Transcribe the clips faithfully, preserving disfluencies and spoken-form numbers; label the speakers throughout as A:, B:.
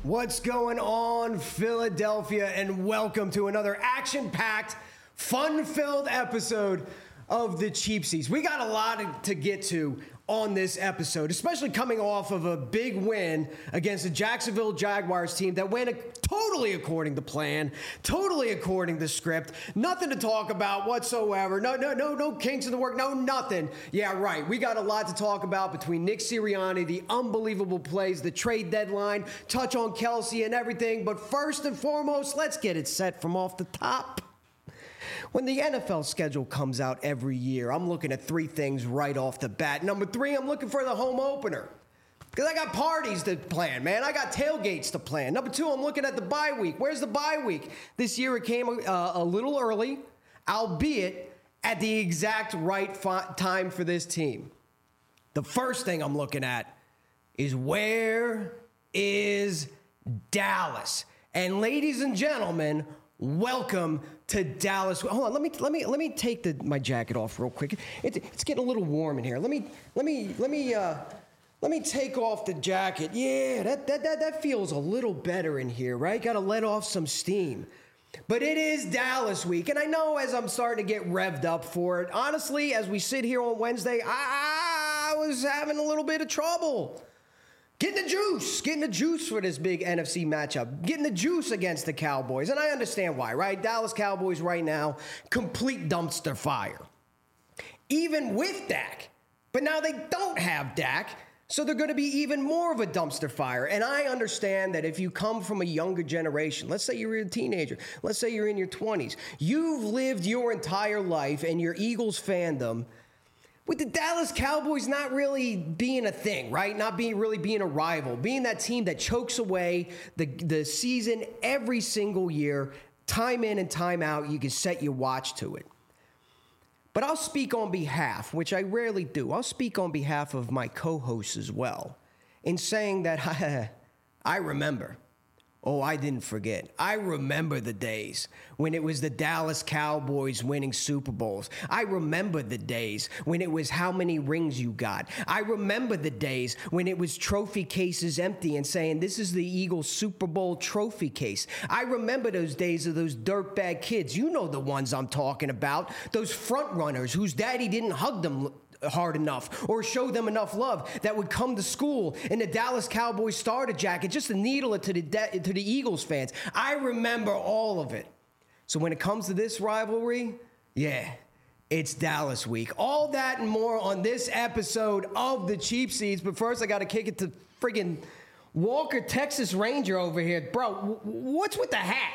A: What's going on, Philadelphia, and welcome to another action-packed, fun-filled episode of the Cheap Seats. We got a lot to get to on this episode, especially coming off of a big win against the Jacksonville Jaguars team that went totally according to plan, totally according to script. Nothing to talk about whatsoever. No, no, no, no kinks in the work. No, nothing. Yeah, right. We got a lot to talk about between Nick Sirianni, the unbelievable plays, the trade deadline, touch on Kelsey and everything. But first and foremost, let's get it set from off the top. When the N F L schedule comes out every year, I'm looking at three things right off the bat. Number three, I'm looking for the home opener. Because I got parties to plan, man. I got tailgates to plan. Number two, I'm looking at the bye week. Where's the bye week? This year it came uh, a little early, albeit at the exact right fi- time for this team. The first thing I'm looking at is where is Dallas? And ladies and gentlemen, welcome to Dallas. Hold on, let me let me let me take the, my jacket off real quick. It, it's getting a little warm in here. Let me let me let me uh, let me take off the jacket. Yeah, that that that that feels a little better in here, right? Got to let off some steam. But it is Dallas week, and I know as I'm starting to get revved up for it. Honestly, as we sit here on Wednesday, I, I was having a little bit of trouble. Getting the juice, getting the juice for this big N F C matchup, getting the juice against the Cowboys. And I understand why, right? Dallas Cowboys right now, complete dumpster fire. Even with Dak. But now they don't have Dak, so they're going to be even more of a dumpster fire. And I understand that if you come from a younger generation, let's say you're a teenager, let's say you're in your twenties, you've lived your entire life and your Eagles fandom with the Dallas Cowboys not really being a thing, right? Not being really being a rival, being that team that chokes away the, the season every single year, time in and time out, you can set your watch to it. But I'll speak on behalf, which I rarely do. I'll speak on behalf of my co-hosts as well in saying that I remember. Oh, I didn't forget. I remember the days when it was the Dallas Cowboys winning Super Bowls. I remember the days when it was how many rings you got. I remember the days when it was trophy cases empty and saying, this is the Eagles Super Bowl trophy case. I remember those days of those dirtbag kids. You know the ones I'm talking about. Those front runners whose daddy didn't hug them hard enough or show them enough love that would come to school in the Dallas Cowboys starter jacket just to needle it to the de- to the Eagles fans. I remember all of it. So when it comes to this rivalry, yeah, it's Dallas week. All that and more on this episode of the Cheap Seats. But first, I got to kick it to friggin' Walker, Texas Ranger over here. Bro, w- what's with the hat?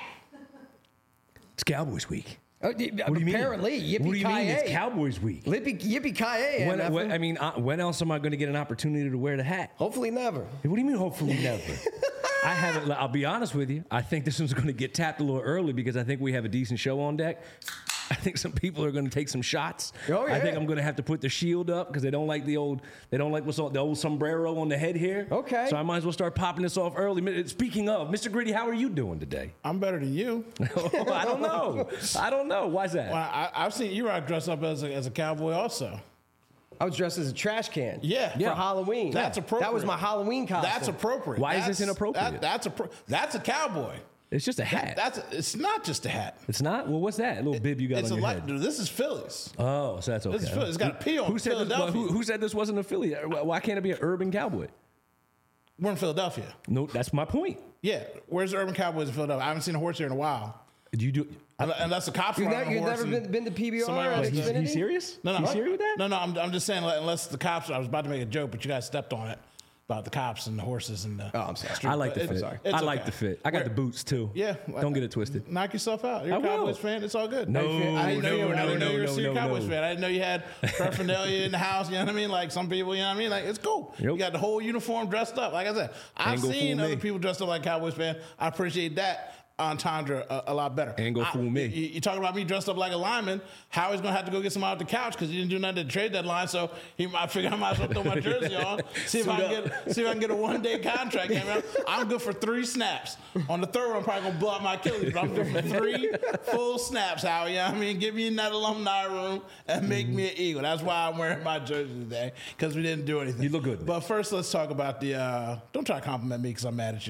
B: It's Cowboys week.
A: Oh,
B: what do you
A: apparently,
B: mean? What do you mean it's Cowboys week?
A: Yippee, yippee-ki-yay.
B: When, when, I mean, uh, when else am I going to get an opportunity to wear the hat?
A: Hopefully never.
B: What do you mean hopefully never? I haven't, I'll be honest with you. I think this one's going to get tapped a little early because I think we have a decent show on deck. I think some people are going to take some shots.
A: Oh, yeah.
B: I think I'm going to have to put the shield up because they don't like the old, they don't like what's on, the old sombrero on the head here.
A: Okay.
B: So I might as well start popping this off early. Speaking of, Mister Gritty, how are you doing today?
C: I'm better than you.
B: I don't know. I don't know. Why's that?
C: Well, I, I've seen you rock dress up as a, as a cowboy also.
A: I was dressed as a trash can.
C: Yeah.
A: For
C: yeah.
A: Halloween.
C: That's appropriate.
A: That was my Halloween costume.
C: That's appropriate.
B: Why
C: that's,
B: is this inappropriate?
C: That, that's a that's a cowboy.
B: It's just a hat.
C: That, that's a, it's not just a hat.
B: It's not? Well, what's that? A little bib you got
C: it's
B: on
C: a
B: your
C: light,
B: head.
C: Dude, this is Phillies.
B: Oh, so that's okay.
C: This is Phillies. It's got a P on
B: who said
C: Philadelphia.
B: This, who, who said this wasn't a Philly? Why can't it be an urban cowboy?
C: We're in Philadelphia.
B: No, that's my point.
C: Yeah. Where's the urban cowboys in Philadelphia? I haven't seen a horse here in a while.
B: Do you do?
C: Unless the cops are
A: You've,
C: on
A: never,
C: a
A: you've
C: horse
A: never been, been to P B R?
B: Wait, he's, he's serious?
C: No, no.
B: You serious with that?
C: No, no. I'm, I'm just saying, like, unless the cops. I was about to make a joke, but you guys stepped on it about the cops and the horses and the.
A: Oh, I'm sorry.
C: Street.
B: I like the
C: But
B: fit.
C: it's-
B: I
C: it's
B: like
C: okay.
B: the fit. I got
C: Where-
B: the boots too.
C: Yeah.
B: Don't get it twisted.
C: Knock yourself out. You're
B: I
C: a Cowboys
B: will.
C: fan. It's all good.
B: No,
C: I didn't know
B: no,
C: you, I didn't
B: no,
C: know you
B: no,
C: were a
B: no,
C: serious
B: no,
C: Cowboys
B: no.
C: fan. I didn't know you had paraphernalia in the house. You know what I mean? Like some people, you know what I mean? Like it's cool.
B: Yep.
C: You got the whole uniform dressed up. Like I said, I've
B: Ain't gonna
C: seen
B: fool
C: other
B: me.
C: people dressed up like Cowboys fan. I appreciate that entendre a, a lot better.
B: Ain't gonna
C: I-
B: fool me.
C: You, you talking about me dressed up like a lineman? Howie's gonna have to go get some out the couch because he didn't do nothing at the trade deadline. So he, I figure I might as well throw my jersey on, see if I can get, see if I can get a one day contract. I'm good for three snaps. On the third one, I'm probably gonna blow out my Achilles, but I'm good for three full snaps. Howie, you know what I mean? Get me in that alumni room and make me an Eagle. That's why I'm wearing my jersey today because we didn't do anything.
B: You look good.
C: But first, let's talk about the. Uh, don't try to compliment me because I'm mad at you.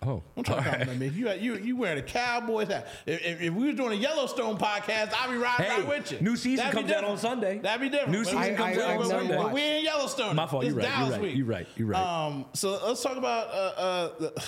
B: Oh,
C: I'm trying to
B: all right.
C: compliment me. You you you wearing a Cowboys hat. If, if, if we were doing a Yellowstone podcast, I'd be riding
B: Hey,
C: right with you.
B: new season
C: That'd be
B: comes out
C: different.
B: on Sunday.
C: That'd be different.
B: New
C: But
B: season
C: we-
B: comes
C: we-
B: out on
C: we-
B: Sunday.
C: but we in Yellowstone.
B: My fault.
C: It's
B: You're right.
C: Dallas
B: You're right.
C: week.
B: You're right. You're right.
C: Um, so let's talk about. Uh, uh, the,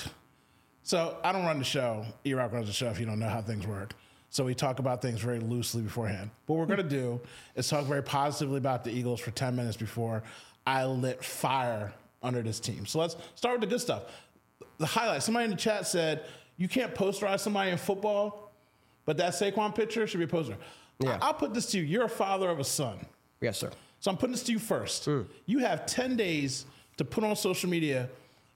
C: so I don't run the show. E-Rock runs the show. If you don't know how things work. So we talk about things very loosely beforehand. What we're going to do is talk very positively about the Eagles for ten minutes before I lit fire under this team. So let's start with the good stuff. The highlights. Somebody in the chat said, you can't posterize somebody in football, but that Saquon picture should be a poster.
A: Yeah.
C: I- I'll put this to you. You're a father of a son.
A: Yes, sir.
C: So I'm putting this to you first. You have ten days to put on social media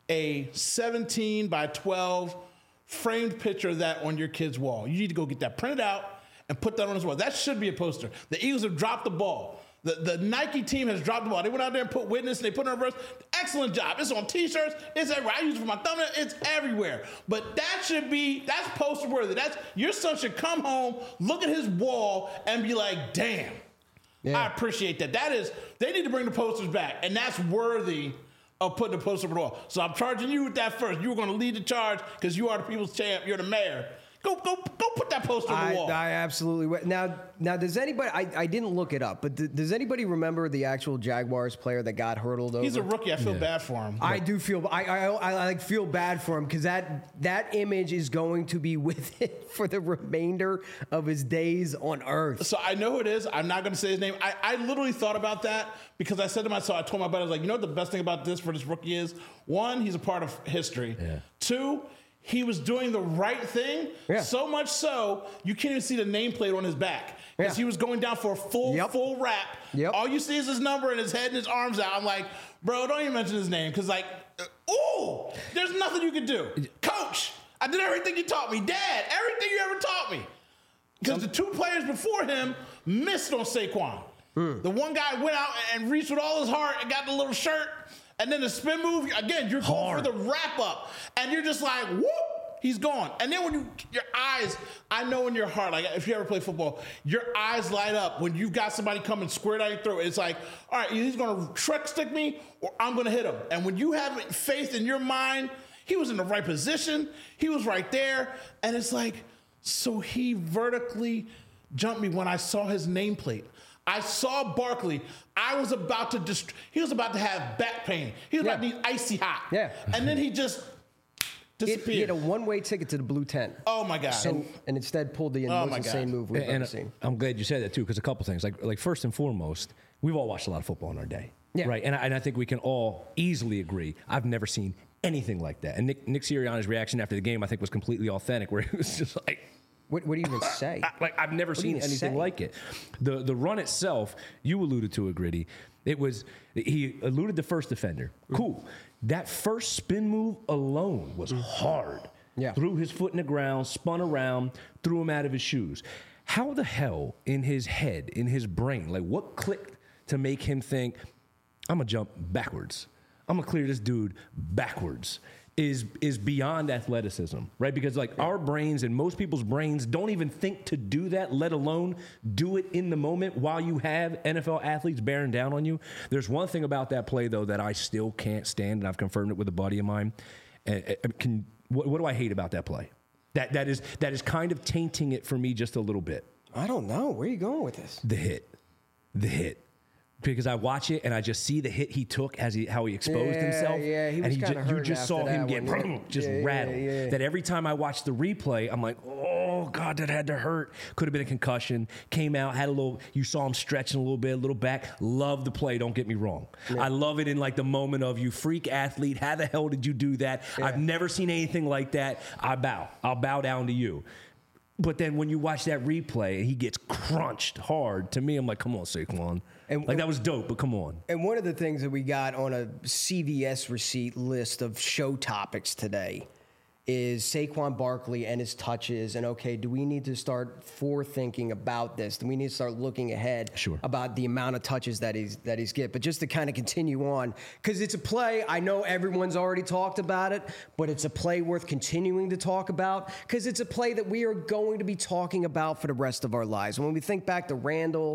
C: a seventeen by twelve framed picture of that on your kid's wall. You need to go get that printed out and put that on his wall. That should be a poster. The Eagles have dropped the ball. The, the Nike team has dropped the ball. They went out there and put witness, and they put it on reverse. Excellent job. It's on t-shirts. It's everywhere. I use it for my thumbnail. It's everywhere. But that should be, that's poster worthy. That's, your son should come home, look at his wall, and be like, damn.
A: Yeah.
C: I appreciate that. That is, they need to bring the posters back, and that's worthy of putting the poster on the wall. So I'm charging you with that first. You were going to lead the charge because you are the people's champ. You're the mayor. Go, go, go! Put that poster on
A: I,
C: the wall.
A: I absolutely will. Now, now, does anybody? I, I didn't look it up, but th- does anybody remember the actual Jaguars player that got hurdled over?
C: He's a rookie. I feel
B: Yeah.
C: bad for him.
A: I do feel I I, I like feel bad for him because that that image is going to be with him for the remainder of his days on Earth.
C: So I know who it is. I'm not going to say his name. I, I literally thought about that because I said to myself, I told my buddy, I was like, you know what the best thing about this for this rookie is? One, he's a part of history.
B: Yeah.
C: Two, he was doing the right thing.
A: Yeah.
C: So much so, you can't even see the nameplate on his back. Because
A: Yeah.
C: he was going down for a full,
A: Yep.
C: full wrap.
A: Yep.
C: All you see is his number and his head and his arms out. I'm like, bro, don't even mention his name. Because, like, uh, ooh, there's nothing you can do. Coach, I did everything you taught me. Dad, everything you ever taught me. Because the two players before him missed on Saquon. The one guy went out and reached with all his heart and got the little shirt. And then the spin move, again, you're going
B: Hard.
C: for the wrap up. And you're just like, whoop, he's gone. And then when you, your eyes, I know in your heart, like if you ever play football, your eyes light up when you've got somebody coming square down your throat. It's like, all right, he's going to trick stick me or I'm going to hit him. And when you have faith in your mind, he was in the right position. He was right there. And it's like, so he vertically jumped me when I saw his nameplate. I saw Barkley. I was about to dist- he was about to have back pain. He was about to
A: Yeah.
C: be icy hot.
A: Yeah.
C: And then he just
A: He, he
C: disappeared.
A: had a one-way ticket to the blue tent.
C: Oh my God.
A: and, and instead pulled the
C: Oh
A: most
C: my
A: insane
C: God.
A: move we've
B: and
A: ever seen.
B: I'm glad you said that too, because a couple things. Like, like first and foremost, we've all watched a lot of football in our day,
A: Yeah.
B: right? And I, and I think we can all easily agree. I've never seen anything like that. And Nick, Nick Sirianni's reaction after the game, I think, was completely authentic, where he was just like,
A: What, what do you even say?
B: I- like I've never
A: do
B: seen
A: you
B: anything
A: say?
B: like it. The the run itself, you alluded to it, Gritty. It was he eluded the first defender. Cool. That first spin move alone was hard.
A: Yeah.
B: Threw his foot in the ground, spun around, threw him out of his shoes. How the hell in his head, in his brain, like what clicked to make him think, I'm gonna jump backwards. I'm gonna clear this dude backwards. Is is beyond athleticism, right? Because like our brains and most people's brains don't even think to do that, let alone do it in the moment while you have N F L athletes bearing down on you. There's one thing about that play though that I still can't stand, and I've confirmed it with a buddy of mine. Uh, uh, can what, what do I hate about that play? That that is that is kind of tainting it for me just a little bit.
A: I don't know. Where are you going with this?
B: The hit, the hit. Because I watch it and I just see the hit he took as he how he exposed
A: Yeah,
B: himself.
A: yeah, he
B: and
A: was
B: he
A: kinda
B: ju- you
A: hurting
B: just
A: after
B: saw him
A: that
B: get
A: one, yeah.
B: just
A: Yeah, yeah,
B: rattled.
A: yeah.
B: That every time I watch the replay, I'm like, oh God, that had to hurt. Could have been a concussion. Came out, had a little. You saw him stretching a little bit, a little back. Love the play. Don't get me wrong. I love it in like the moment of you freak athlete. How the hell did you do that? I've never seen anything like that. I bow. I'll bow down to you. But then when you watch that replay and he gets crunched hard, to me, I'm like, come on, Saquon.
A: And-
B: like, that was dope, but come on.
A: And one of the things that we got on a C V S receipt list of show topics today is Saquon Barkley and his touches. And okay, do we need to start forethinking about this? Do we need to start looking ahead
B: Sure.
A: about the amount of touches that he's that he's get? But just to kind of continue on, because it's a play. I know everyone's already talked about it, but it's a play worth continuing to talk about because it's a play that we are going to be talking about for the rest of our lives. When we think back to Randall,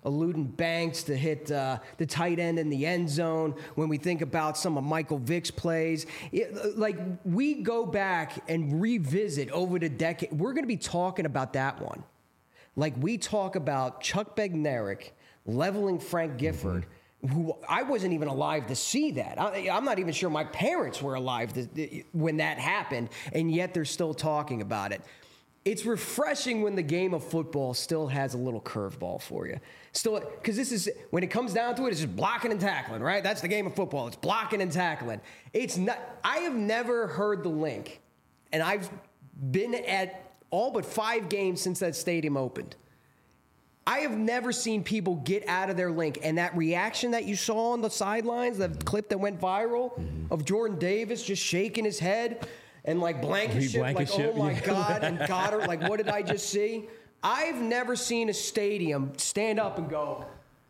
A: eluding Banks to hit uh, the tight end in the end zone, when we think about some of Michael Vick's plays, it, like we go back and revisit over the decade, we're going to be talking about that one. Like we talk about Chuck Bednarik leveling Frank Gifford, mm-hmm. who I wasn't even alive to see that. I, I'm not even sure my parents were alive to, when that happened, and yet they're still talking about it. It's refreshing when the game of football still has a little curveball for you. Still, because this is, when it comes down to it, it's just blocking and tackling, right? That's the game of football. It's blocking and tackling. It's not, I have never heard the link, and I've been at all but five games since that stadium opened. I have never seen people get out of their link, and that reaction that you saw on the sidelines, the clip that went viral mm-hmm. of Jordan Davis just shaking his head and like Blankenship, like, oh my God, and Goddard, like, what did I just see? I've never seen a stadium stand up and go,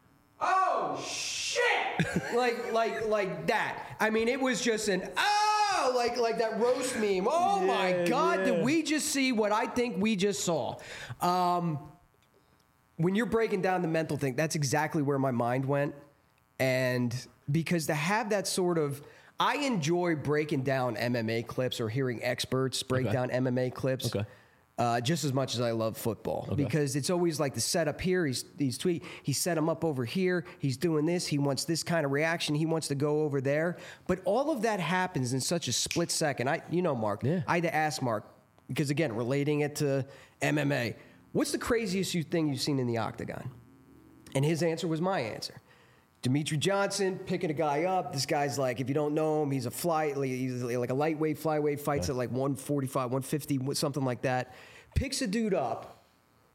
A: oh shit, like like like that. I mean, it was just an oh, like like that roast meme. Oh yeah, my God, yeah. Did we just see what I think we just saw? Um, when you're breaking down the mental thing, that's exactly where my mind went, and because to have that sort of, I enjoy breaking down M M A clips or hearing experts break okay. down M M A clips. Okay. Uh, just as much as I love football, okay. because it's always like the setup here. He's he's tweet. He set him up over here. He's doing this. He wants this kind of reaction. He wants to go over there. But all of that happens in such a split second. I, you know, Mark. Yeah. I had to ask Mark because again, relating it to M M A. What's the craziest you thing you've seen in the octagon? And his answer was my answer. Demetri Johnson picking a guy up. This guy's like, if you don't know him, he's a fly, he's like a lightweight, flyweight, fights at like one forty-five, one fifty, something like that. Picks a dude up,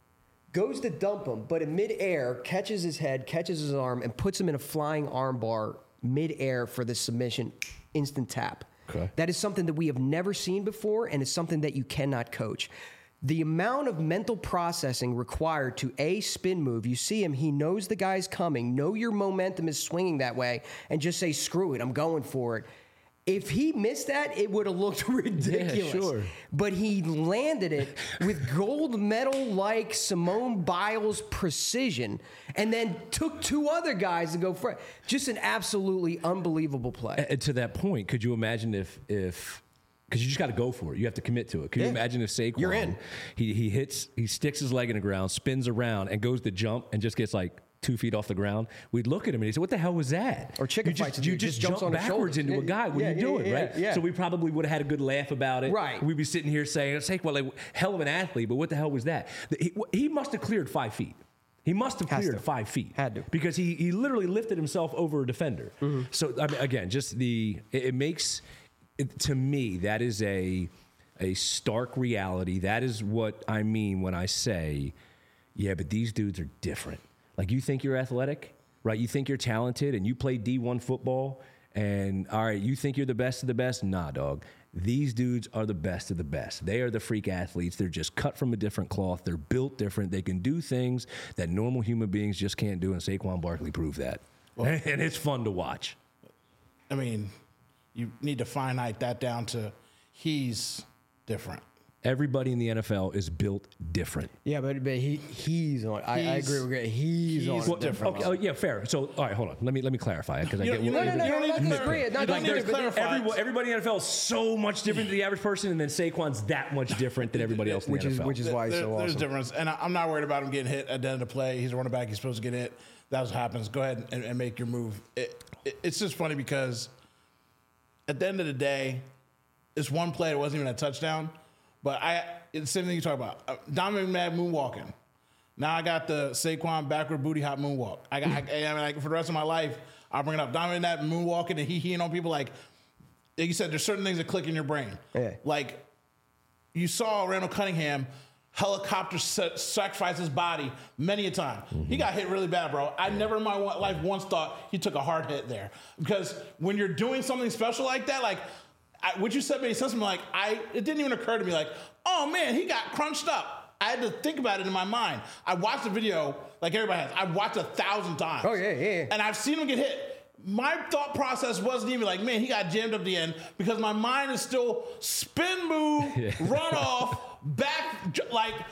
A: goes to dump him, but in midair, catches his head, catches his arm, and puts him in a flying armbar midair for the submission, instant tap. Okay. That is something that we have never seen before, and it's something that you cannot coach. The amount of mental processing required to a spin move, you see him, he knows the guy's coming, know your momentum is swinging that way, and just say, screw it, I'm going for it. If he missed that, it would have looked ridiculous. Yeah, sure. But he landed it with gold medal-like Simone Biles precision and then took two other guys to go for it. Just an absolutely unbelievable play.
B: And to that point, could you imagine if... if Because you just got to go for it. You have to commit to it. Can yeah. you imagine if Saquon,
A: you're in.
B: He he hits, he sticks his leg in the ground, spins around, and goes to jump, and just gets like two feet off the ground? We'd look at him and he'd say, "What the hell was that?"
A: Or chicken
B: you
A: fights.
B: Just, you just, just jump backwards into yeah, a guy. What yeah, are you doing,
A: yeah,
B: right?
A: Yeah, yeah.
B: So we probably would have had a good laugh about it.
A: Right.
B: We'd be sitting here saying, "Saquon, like hell of an athlete, but what the hell was that?" He, he must have cleared five feet. He must have cleared five feet.
A: Had to.
B: Because he he literally lifted himself over a defender. Mm-hmm. So I mean, again, just the it, it makes it, to me that is a a stark reality. That is what I mean when I say, yeah, but these dudes are different. Like, you think you're athletic, right? You think you're talented and you play D one football and, all right, you think you're the best of the best? Nah, dog. These dudes are the best of the best. They are the freak athletes. They're just cut from a different cloth. They're built different. They can do things that normal human beings just can't do, and Saquon Barkley proved that. Well, and it's fun to watch.
C: I mean, you need to finite that down to he's different.
B: Everybody in the N F L is built different.
A: Yeah, but, but he he's on. I, I agree with you. He's, he's on well,
C: different.
B: Okay, oh, yeah, fair. So, all right, hold on. Let me let me clarify because I
C: you
B: get.
C: You
A: no, no, no,
C: you
A: no,
C: don't
A: no,
C: need to
A: agree.
C: Not
B: like,
C: need to clarify.
B: Everybody, everybody in the N F L is so much different than the average person, and then Saquon's that much different than everybody else in
A: which
B: the
A: is,
B: N F L.
A: Which is why he's
C: there,
A: so awesome.
C: There's a difference, and I, I'm not worried about him getting hit at the end of the play. He's a running back. He's supposed to get hit. That's what happens. Go ahead and, and make your move. It, it, it's just funny because at the end of the day, it's one play. It wasn't even a touchdown. But I, it's the same thing you talk about. Uh, Donovan McNabb moonwalking. Now I got the Saquon backward booty hop moonwalk. I got, I, I mean, like, for the rest of my life, I'll bring it up. Donovan McNabb moonwalking and he heeing on people. Like, like you said, there's certain things that click in your brain.
A: Yeah.
C: Like, you saw Randall Cunningham helicopter sacrifice his body many a time. Mm-hmm. He got hit really bad, bro. I never in my life once thought he took a hard hit there. Because when you're doing something special like that, like, I, what you said made sense to me. Like, I, it didn't even occur to me, like, oh man, he got crunched up. I had to think about it in my mind. I watched the video like everybody has. I've watched it a thousand times.
A: Oh yeah, yeah.
C: And I've seen him get hit. My thought process wasn't even like, man, he got jammed up the end, because my mind is still spin move, yeah. run off, back, like.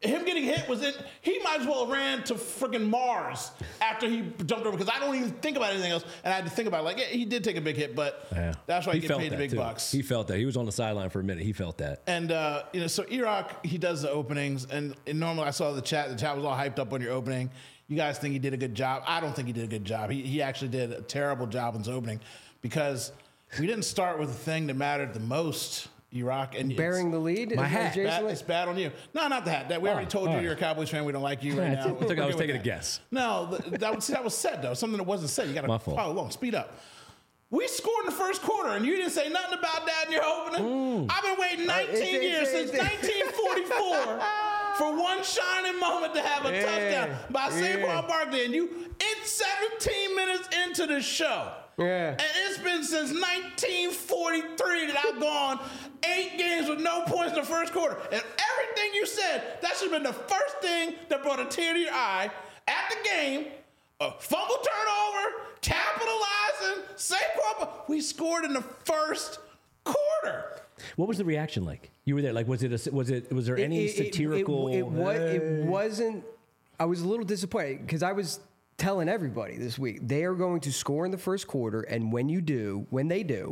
C: him getting hit was in. He might as well have ran to freaking Mars after he jumped over because I don't even think about anything else. And I had to think about it. Like, yeah, he did take a big hit, but
B: Yeah.
C: that's why he,
B: he
C: get
B: felt
C: paid the
B: that
C: big
B: too.
C: bucks.
B: He felt that. He was on the sideline for a minute. He felt that.
C: And uh, you know, so E-Rock, he does the openings, and, and normally I saw the chat. The chat was all hyped up on your opening. You guys think he did a good job? I don't think he did a good job. He he actually did a terrible job in his opening because we didn't start with the thing that mattered the most. E-Rock and
A: Bearing the lead?
B: My
A: Is that
B: hat.
A: Jason
C: Bad,
A: Lee?
C: it's bad on you. No, not the hat. That we already
B: Oh,
C: told you
B: all
C: you're a
B: right.
C: Cowboys fan. We don't like you right
B: Yeah,
C: now.
B: I think I was
C: We're good with
B: taking a
C: that.
B: guess.
C: No, th- that was that was said though. Something that wasn't said. You got to
B: My fault.
C: follow along. Speed up. We scored in the first quarter, and you didn't say nothing about that in your opening. I've been waiting nineteen
A: it's-
C: years
A: it's-
C: since
A: it's-
C: nineteen forty-four for one shining moment to have a
A: Yeah,
C: touchdown by
A: yeah.
C: Saquon Barkley, and you it's seventeen minutes into the show.
A: Yeah.
C: And it's been since nineteen forty-three that I've gone eight games with no points in the first quarter. And everything you said, that should have been the first thing that brought a tear to your eye at the game. A fumble turnover, capitalizing, Saquon. We scored in the first quarter.
B: What was the reaction like? You were there. Like, was it? A, was it? Was there any
A: It- it- it-
B: satirical?
A: It, it, wa-
B: "Hey"?
A: it wasn't. I was a little disappointed because I was telling everybody this week they are going to score in the first quarter, and when you do, when they do,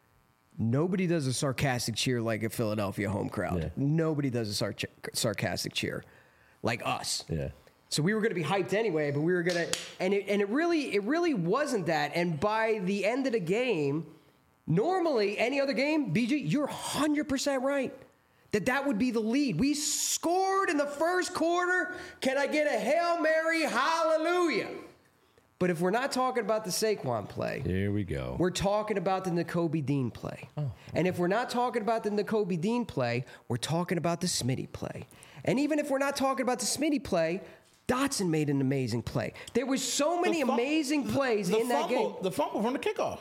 A: nobody does a sarcastic cheer like a Philadelphia home crowd.
B: Yeah.
A: Nobody does a sar- sarcastic cheer like us.
B: Yeah.
A: So we were going to be hyped anyway, but we were going to, and it, and it really, it really wasn't that. And by the end of the game, normally any other game, B G, you're one hundred percent right that that would be the lead. We scored in the first quarter. Can I get a Hail Mary, hallelujah? But if we're not talking about the Saquon play,
B: Here we go.
A: we're talking about the Nakobe Dean play. And if we're not talking about the Nakobe Dean play, we're talking about the Smitty play. And even if we're not talking about the Smitty play, Dotson made an amazing play. There was so many
C: The fum-
A: amazing plays
C: the
A: in that
C: fumble,
A: game.
C: The fumble from the kickoff.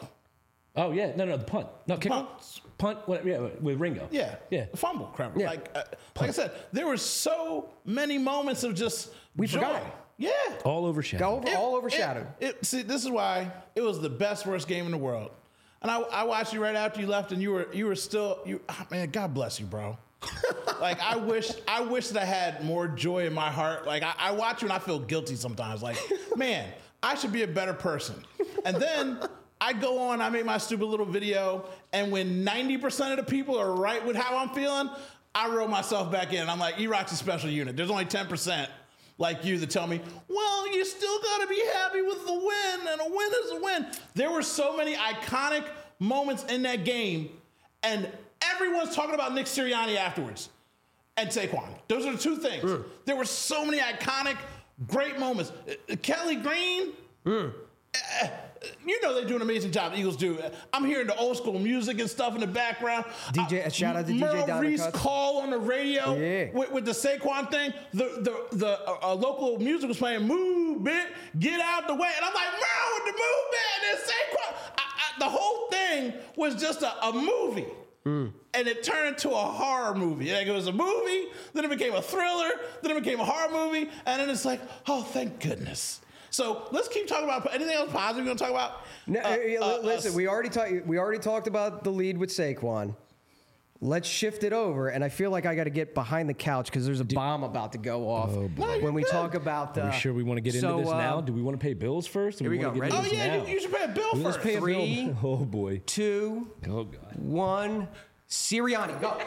B: Oh yeah, no, no, the punt, no kick,
C: punt.
B: punt, what, yeah, with Ringo.
C: Yeah,
B: yeah.
C: The fumble, crap.
A: Yeah.
C: Like, uh, like I said, there were so many moments of just
A: We
C: joy.
A: forgot.
C: Yeah,
B: All overshadowed.
A: Go over,
C: It-
A: all overshadowed.
C: It, it, see, this is why it was the best, worst game in the world. And I, I watched you right after you left, and you were you were still you. Oh, man, God bless you, bro. Like I wish I wish that I had more joy in my heart. Like I, I watch you and I feel guilty sometimes. Like, man, I should be a better person. And then I go on, I make my stupid little video, and when ninety percent of the people are right with how I'm feeling, I roll myself back in. I'm like, E-Rock's a special unit. There's only ten percent like you that tell me, well, you still got to be happy with the win, and a win is a win. There were so many iconic moments in that game, and everyone's talking about Nick Sirianni afterwards and Saquon. Those are the two things.
A: Mm.
C: There were so many iconic, great moments. Uh, Kelly Green,
A: Mm.
C: uh, you know they do an amazing job. The Eagles do. I'm hearing the old school music and stuff in the background.
A: D J
C: Uh,
A: shout out to D J
C: Merle
A: Donna
C: Reese
A: Cuts.
C: call on the radio
A: Yeah.
C: with, with the Saquon thing. The the the uh, uh, local music was playing "Move It, Get Out the Way," and I'm like, Merle with the movement and then Saquon. I, I, the whole thing was just a, a movie.
A: Mm.
C: And it turned into a horror movie. Like it was a movie, then it became a thriller, then it became a horror movie, and then it's like, oh, thank goodness. So let's keep talking about anything else positive you want to talk about.
A: No,
C: Uh,
A: uh,
C: uh,
A: listen,
C: uh,
A: we already talked. We already talked about the lead with Saquon. Let's shift it over, and I feel like I got to get behind the couch because there's a bomb about to go off
C: No,
A: when
C: you're
A: we
C: good.
A: talk about. Uh,
B: Are we sure we want to get into
A: so,
B: this
A: uh,
B: now? Do we want to pay bills first? Here
A: we go. Ready?
C: Oh yeah, you, you should pay a bill
B: Let's
C: first.
B: pay a
A: Three.
B: bill. Oh boy.
A: Two,
B: Oh god.
A: one, Sirianni, go.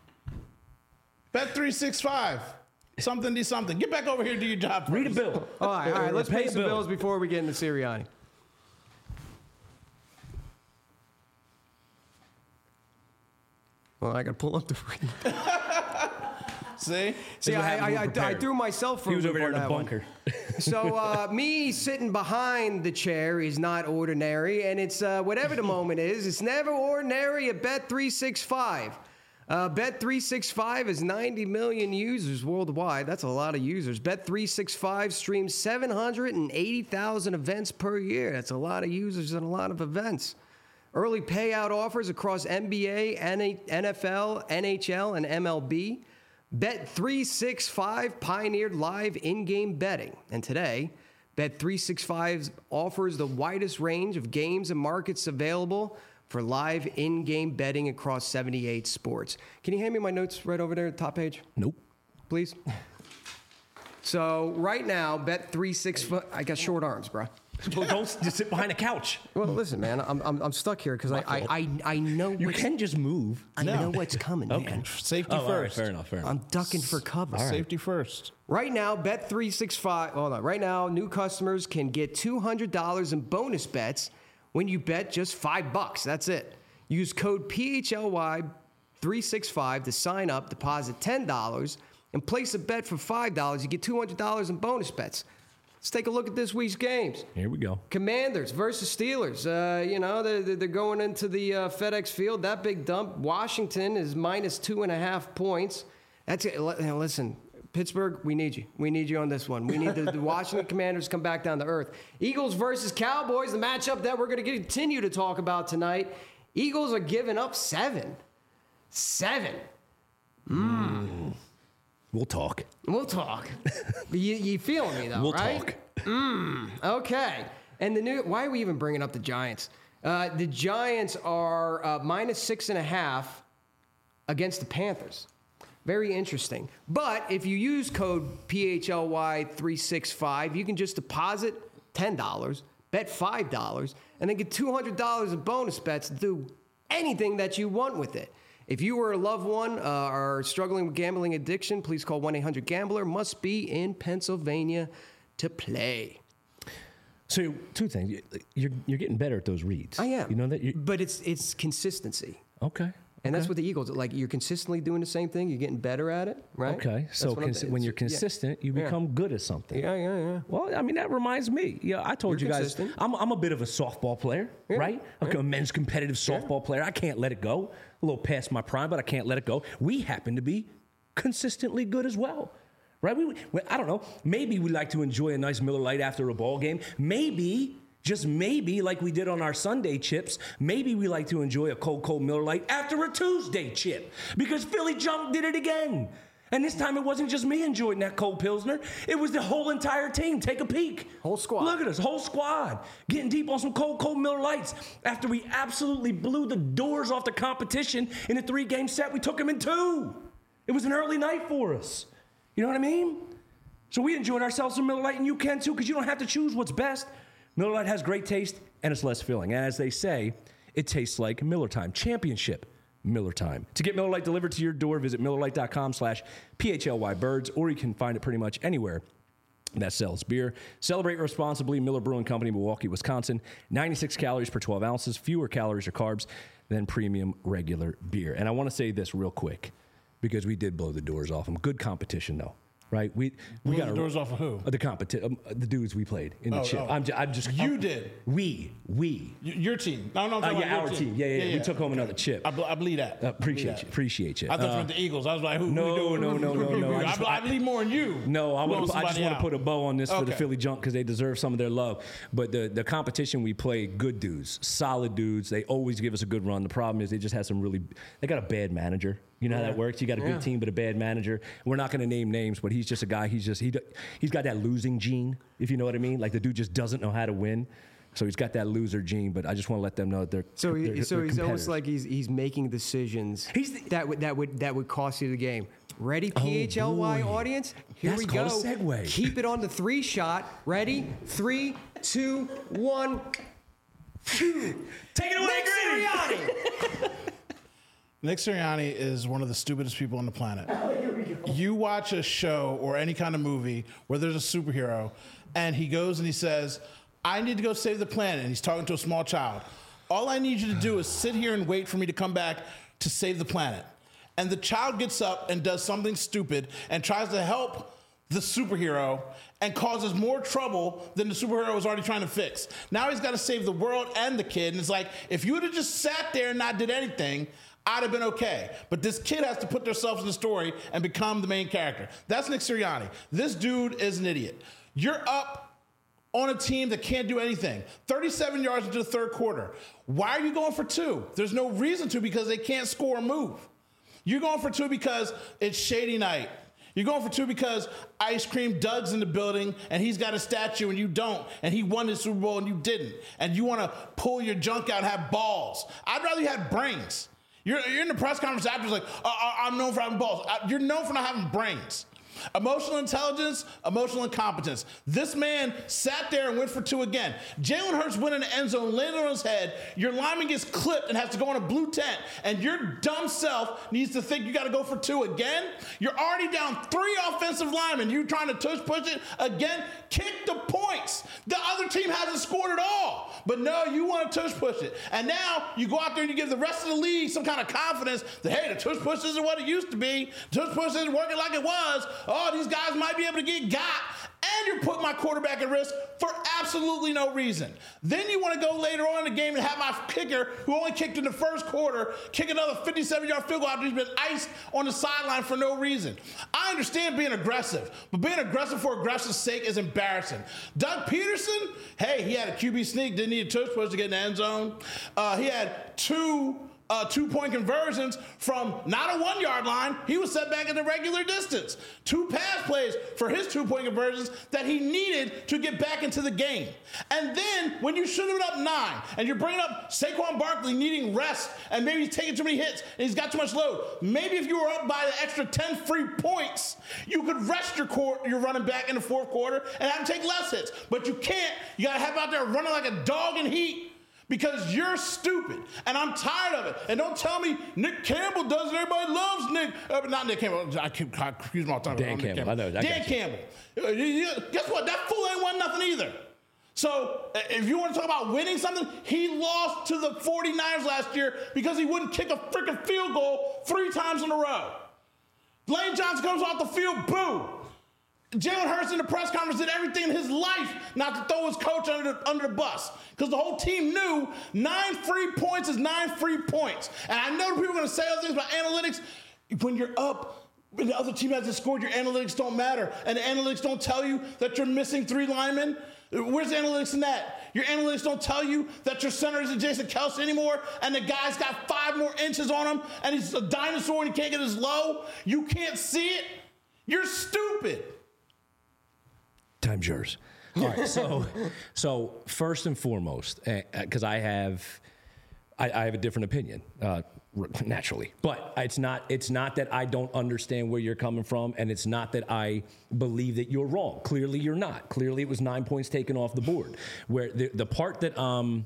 C: Bet three six five. Something do something. Get back over here and do your job. First.
B: Read a bill.
A: All right, all right. Let's
B: Pay
A: pay
B: a
A: some
B: bill.
A: bills before we get into Sirianni. Well, I got to pull up the.
C: See?
A: See,
B: what
A: I,
B: happens
A: I,
B: when
A: I,
B: we're
A: I
B: prepared.
A: threw myself for
B: He was
A: a
B: over
A: loop
B: there in
A: on
B: the
A: that one.
B: bunker.
A: So uh, me sitting behind the chair is not ordinary, and it's uh, whatever the moment is. It's never ordinary at Bet three sixty-five. Uh, Bet three sixty-five has ninety million users worldwide. That's a lot of users. Bet three sixty-five streams seven hundred eighty thousand events per year. That's a lot of users and a lot of events. Early payout offers across N B A, N F L, N H L, and M L B. Bet three sixty-five pioneered live in-game betting. And today, Bet three sixty-five offers the widest range of games and markets available for live in-game betting across seventy-eight sports. Can you hand me my notes right over there at the top page,
B: Nope.
A: please? So right now, bet three six foot. I got short arms, bro.
B: Well, don't just sit behind a couch.
A: Well, listen, man, I'm I'm, I'm stuck here because I, I I I know
B: You
A: what's,
B: can just move.
A: I
C: No.
A: know what's coming,
B: Okay.
A: man.
C: Safety
B: Oh, all right,
C: first.
B: fair enough. Fair enough.
A: I'm ducking for cover.
C: Safety first.
A: Right now, bet three sixty-five. Hold on. Right now, new customers can get two hundred dollars in bonus bets when you bet just five bucks. That's it. Use code P H L Y three sixty-five to sign up, deposit ten dollars, and place a bet for five dollars. You get two hundred dollars in bonus bets. Let's take a look at this week's games.
B: Here we go.
A: Commanders versus Steelers. Uh, you know, they're, they're going into the uh, FedEx Field. That big dump. Washington is minus two and a half points. That's it. Listen, Pittsburgh, we need you. We need you on this one. We need the, the Washington Commanders to come back down to earth. Eagles versus Cowboys, the matchup that we're going to continue to talk about tonight. Eagles are giving up seven. Seven.
B: Mm. We'll talk.
A: We'll talk. you, you feeling me, though,
B: We'll
A: right?
B: talk.
A: Mm, okay. And the new, why are we even bringing up the Giants? Uh, the Giants are uh, minus six and a half against the Panthers. Very interesting. But if you use code P H L Y three sixty-five, you can just deposit ten dollars, bet five dollars, and then get two hundred dollars in bonus bets to do anything that you want with it. If you or a loved one uh, are struggling with gambling addiction, please call one eight hundred gambler. Must be in Pennsylvania to play.
B: So two things. You're you're getting better at those reads.
A: I am.
B: You know that. You're,
A: But it's it's consistency.
B: okay.
A: And
B: okay.
A: that's what the Eagles, like, you're consistently doing the same thing. You're getting better at it, right?
B: Okay.
A: That's
B: So
A: what I'm-
B: cons- when you're
A: yeah.
B: consistent, you
A: Yeah.
B: become good at something.
A: Yeah, yeah, yeah.
B: Well, I mean, that reminds me. Yeah, I told
A: You're
B: you guys,
A: consistent.
B: I'm, I'm a bit of a softball player,
A: Yeah,
B: right? I'm
A: yeah.
B: a men's competitive softball player. I can't let it go. A little past my prime, but I can't let it go. We happen to be consistently good as well, right? We, we, I don't know. Maybe we like to enjoy a nice Miller Lite after a ball game. Maybe, just maybe, like we did on our Sunday chips, maybe we like to enjoy a cold, cold Miller Lite after a Tuesday chip because Philly Junk did it again. And this time it wasn't just me enjoying that cold Pilsner. It was the whole entire team. Take a peek.
A: Whole squad.
B: Look at us, whole squad. Getting deep on some cold, cold Miller Lights after we absolutely blew the doors off the competition in a three-game set. We took them in two. It was an early night for us. You know what I mean? So we enjoyed ourselves some Miller Lite, and you can too, because you don't have to choose what's best. Miller Lite has great taste, and it's less filling. And as they say, it tastes like Miller Time. Championship Miller Time. To get Miller Lite delivered to your door, visit MillerLite.com slash PHLY Birds, or you can find it pretty much anywhere that sells beer. Celebrate responsibly. Miller Brewing Company, Milwaukee, Wisconsin. ninety-six calories per twelve ounces, fewer calories or carbs than premium regular beer. And I want to say this real quick, because we did blow the doors off them. Good competition, though. Right, we we
C: Blew
B: got
C: the doors off of who?
B: Uh, the competi- um, uh, the dudes we played in the
C: Oh,
B: chip.
C: oh.
B: I'm, ju- I'm just
C: You
B: I'm-
C: did.
B: We we.
C: Y- Your team. No, no, I'm
B: Uh,
C: talking
B: yeah,
C: about
B: our
C: your
B: team. Yeah, yeah, yeah. We took home another chip.
C: I, bl- I believe that.
B: Uh,
C: I
B: appreciate
C: believe
B: you.
C: that.
B: Appreciate you.
C: I thought
B: Uh,
C: you meant the Eagles. I was like, who?
B: no,
C: who doing?
B: no, no, no, no. I
C: I,
B: just-
C: bl- I believe more in you.
B: No, I,
C: Blowing
B: would, I just
C: somebody
B: want to
C: out.
B: put a bow on this for the
C: Okay.
B: Philly Junk because they deserve some of their love. But the, the competition we played, good dudes, solid dudes. They always give us a good run. The problem is they just had some really, they got a bad manager. You know how that works? You got a good
A: Yeah.
B: team but a bad manager. We're not going to name names, but he's just a guy. He's just, he, he's got that losing gene, if you know what I mean. Like the dude just doesn't know how to win. So he's got that loser gene, but I just want to let them know that they're
A: So, he,
B: they're,
A: so
B: they're
A: he's almost
B: competitors.
A: like he's he's making decisions
B: He's the-
A: that would that would that would cost you the game. Ready, P H L Y
B: boy.
A: audience? Here
B: That's
A: we go.
B: called a segue.
A: Keep it on the three shot. Ready? Three, two, one. Phew.
B: Take it away,
A: Nick
B: Gritty!
A: Sirianni.
C: Nick Sirianni is one of the stupidest people on the planet. You watch a show or any kind of movie where there's a superhero, and he goes and he says, I need to go save the planet, and he's talking to a small child. All I need you to do is sit here and wait for me to come back to save the planet. And the child gets up and does something stupid and tries to help the superhero and causes more trouble than the superhero was already trying to fix. Now he's got to save the world and the kid, and it's like, if you would have just sat there and not did anything, I'd have been okay. But this kid has to put themselves in the story and become the main character. That's Nick Sirianni. This dude is an idiot. You're up on a team that can't do anything. thirty-seven yards into the third quarter. Why are you going for two? There's no reason to because they can't score or move. You're going for two because it's shady night. You're going for two because Ice Cream Doug's in the building and he's got a statue and you don't, and he won the Super Bowl and you didn't, and you want to pull your junk out and have balls. I'd rather you had brains. You're, you're in the press conference after, like, uh, I'm known for having balls. Uh, You're known for not having brains. Emotional intelligence, emotional incompetence. This man sat there and went for two again. Jalen Hurts went in the end zone, landed on his head. Your lineman gets clipped and has to go in a blue tent, and your dumb self needs to think you got to go for two again. You're already down three offensive linemen. You trying to tush push it again? Kick the points. The other team hasn't scored at all, but no, you want to tush push it. And now you go out there and you give the rest of the league some kind of confidence that, hey, the tush push isn't what it used to be. The tush push isn't working like it was. Oh, these guys might be able to get got. And you're putting my quarterback at risk for absolutely no reason. Then you want to go later on in the game and have my kicker, who only kicked in the first quarter, kick another fifty-seven-yard field goal after he's been iced on the sideline for no reason. I understand being aggressive, but being aggressive for aggressive's sake is embarrassing. Doug Peterson, hey, he had a Q B sneak, didn't need a tush push to get in the end zone. Uh, he had two Uh, two-point conversions from not a one-yard line. He was set back in the regular distance. Two pass plays for his two-point conversions that he needed to get back into the game. And then when you should have been up nine and you're bringing up Saquon Barkley needing rest and maybe he's taking too many hits and he's got too much load, maybe if you were up by the extra ten free points, you could rest your, court, your running back in the fourth quarter and have him take less hits. But you can't. You got to have him out there running like a dog in heat. Because you're stupid, and I'm tired of it. And don't tell me Nick Campbell does it. Everybody loves Nick. Uh, not Nick Campbell. I keep I confuse my tongue.
B: Dan Campbell. Campbell. I know. I
C: Dan Campbell. Uh, guess what? That fool ain't won nothing either. So if you want to talk about winning something, he lost to the forty-niners last year because he wouldn't kick a freaking field goal three times in a row. Lane Johnson comes off the field, boo. Jalen Hurts in the press conference did everything in his life not to throw his coach under the, under the bus because the whole team knew nine free points is nine free points. And I know people are going to say other things about analytics. When you're up and the other team hasn't scored, your analytics don't matter. And the analytics don't tell you that you're missing three linemen. Where's the analytics in that? Your analytics don't tell you that your center isn't Jason Kelce anymore and the guy's got five more inches on him and he's a dinosaur and he can't get his low. You can't see it. You're stupid.
B: Time's yours. All right, so so first and foremost, because uh, I have I, I have a different opinion, uh, naturally, but it's not it's not that I don't understand where you're coming from, and it's not that I believe that you're wrong. Clearly, you're not. Clearly, it was nine points taken off the board. Where the the part that um.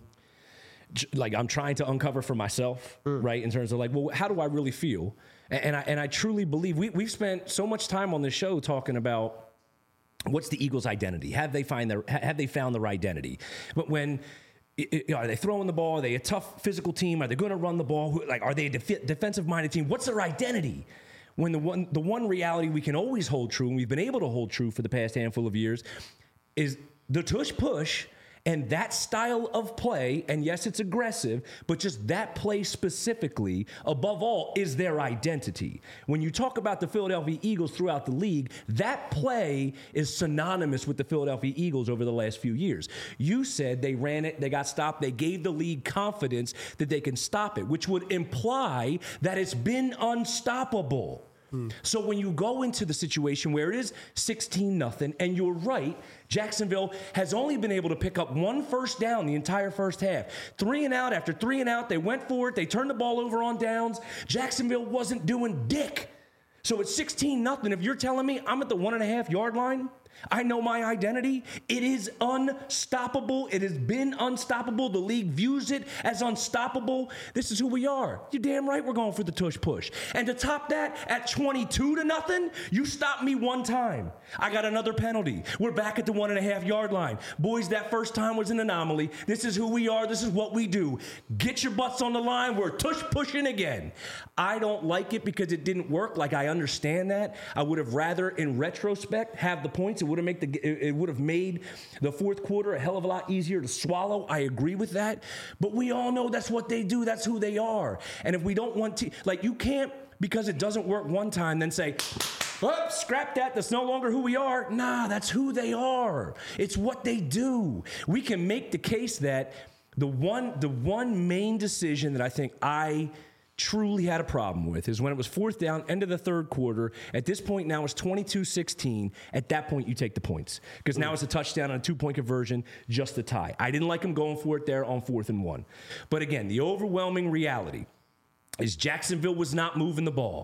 B: like I'm trying to uncover for myself, mm. right? In terms of like, well, how do I really feel? And, and I and I truly believe we we've spent so much time on this show talking about. What's the Eagles' identity? Have they find their have they found their identity? But when you know, are they throwing the ball? Are they a tough physical team? Are they going to run the ball? Like, are they a def- defensive-minded team? What's their identity? When the one the one reality we can always hold true, and we've been able to hold true for the past handful of years, is the tush push. And that style of play, and yes, it's aggressive, but just that play specifically, above all, is their identity. When you talk about the Philadelphia Eagles throughout the league, that play is synonymous with the Philadelphia Eagles over the last few years. You said they ran it, they got stopped, they gave the league confidence that they can stop it, which would imply that it's been unstoppable. So when you go into the situation where it is sixteen nothing, and you're right, Jacksonville has only been able to pick up one first down the entire first half. Three and out after three and out, they went for it, they turned the ball over on downs. Jacksonville wasn't doing dick. So it's sixteen nothing. If you're telling me I'm at the one and a half yard line, I know my identity. It is unstoppable. It has been unstoppable. The league views it as unstoppable. This is who we are. You're damn right we're going for the tush push. And to top that, at twenty-two to nothing, you stopped me one time. I got another penalty. We're back at the one and a half yard line. Boys, that first time was an anomaly. This is who we are. This is what we do. Get your butts on the line. We're tush pushing again. I don't like it because it didn't work. Like, I understand that. I would have rather, in retrospect, have the points. It would have made the it would have made the fourth quarter a hell of a lot easier to swallow. I agree with that. But we all know that's what they do. That's who they are. And if we don't want to, like, you can't, because it doesn't work one time, then say, oh, scrap that. That's no longer who we are. Nah, that's who they are. It's what they do. We can make the case that the one the one main decision that I think I truly had a problem with is when it was fourth down, end of the third quarter. At this point now it's twenty-two sixteen. At that point, you take the points because now it's a touchdown on a two-point conversion, just a tie. I didn't like him going for it there on fourth and one. But again, the overwhelming reality is Jacksonville was not moving the ball.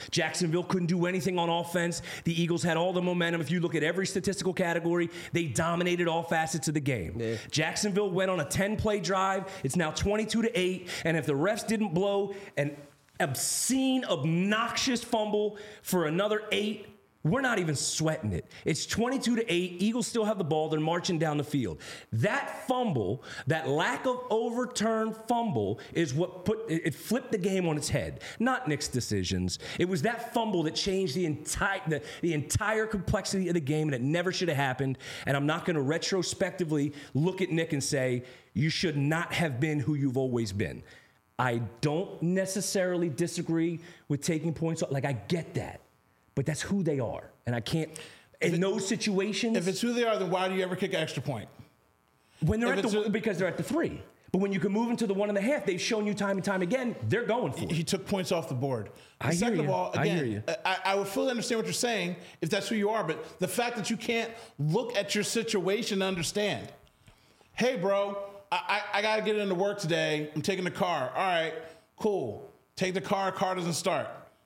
B: Jacksonville couldn't do anything on offense. The Eagles had all the momentum. If you look at every statistical category, they dominated all facets of the game. Yeah. Jacksonville went on a ten-play drive. It's now twenty-two to eight. And if the refs didn't blow an obscene, obnoxious fumble for another eight, we're not even sweating it. It's twenty-two to eight. Eagles still have the ball. They're marching down the field. That fumble, that lack of overturned fumble is what put it flipped the game on its head. Not Nick's decisions. It was that fumble that changed the entire the, the entire complexity of the game, and it never should have happened. And I'm not going to retrospectively look at Nick and say, you should not have been who you've always been. I don't necessarily disagree with taking points. Like, I get that. But that's who they are. And I can't, in it, those situations.
C: If it's who they are, then why do you ever kick an extra point?
B: When they're if at the, a, because they're at the three. But when you can move into the one and a half, they've shown you time and time again, they're going for it.
C: He took points off the board.
B: I
C: Second
B: hear you.
C: of all, again,
B: I hear you.
C: I, I would fully understand what you're saying if that's who you are, but the fact that you can't look at your situation to understand. Hey, bro, I, I, I got to get into work today. I'm taking the car. All right, cool. Take the car. Car doesn't start.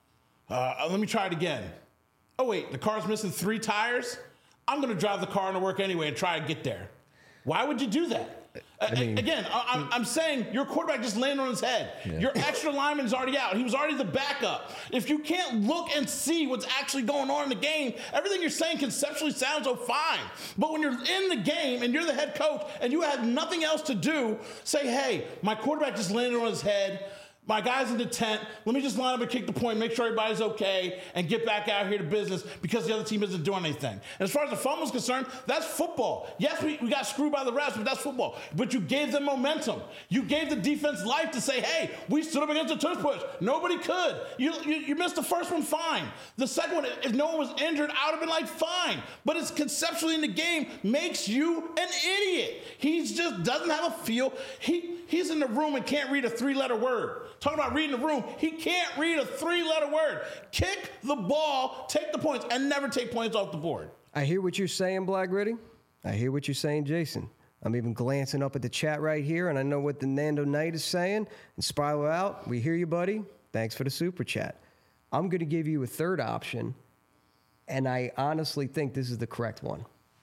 C: Uh, let me try it again. Oh, wait, the car's missing three tires? I'm going to drive the car into work anyway and try to get there. Why would you do that? I mean, Again, I, I'm saying your quarterback just landed on his head. Yeah. Your extra lineman's already out. He was already the backup. If you can't look and see what's actually going on in the game, everything you're saying conceptually sounds so fine. But when you're in the game and you're the head coach and you have nothing else to do, say, hey, my quarterback just landed on his head. My guy's in the tent. Let me just line up and kick the point, make sure everybody's okay, and get back out here to business because the other team isn't doing anything. And as far as the fumble's concerned, that's football. Yes, we, we got screwed by the refs, but that's football. But you gave them momentum. You gave the defense life to say, hey, we stood up against the tush push. Nobody could. You, you, you missed the first one, fine. The second one, if no one was injured, I would have been like, fine. But it's conceptually in the game makes you an idiot. He just doesn't have a feel. He He's in the room and can't read a three-letter word. Talking about reading the room, he can't read a three-letter word. Kick the ball, take the points, and never take points off the board.
A: I hear what you're saying, Black Gritty. I hear what you're saying, Jason. I'm even glancing up at the chat right here, and I know what the Nando Knight is saying. And Spiral Out, we hear you, buddy. Thanks for the super chat. I'm going to give you a third option, and I honestly think this is the correct one.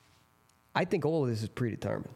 A: I think all of this is predetermined.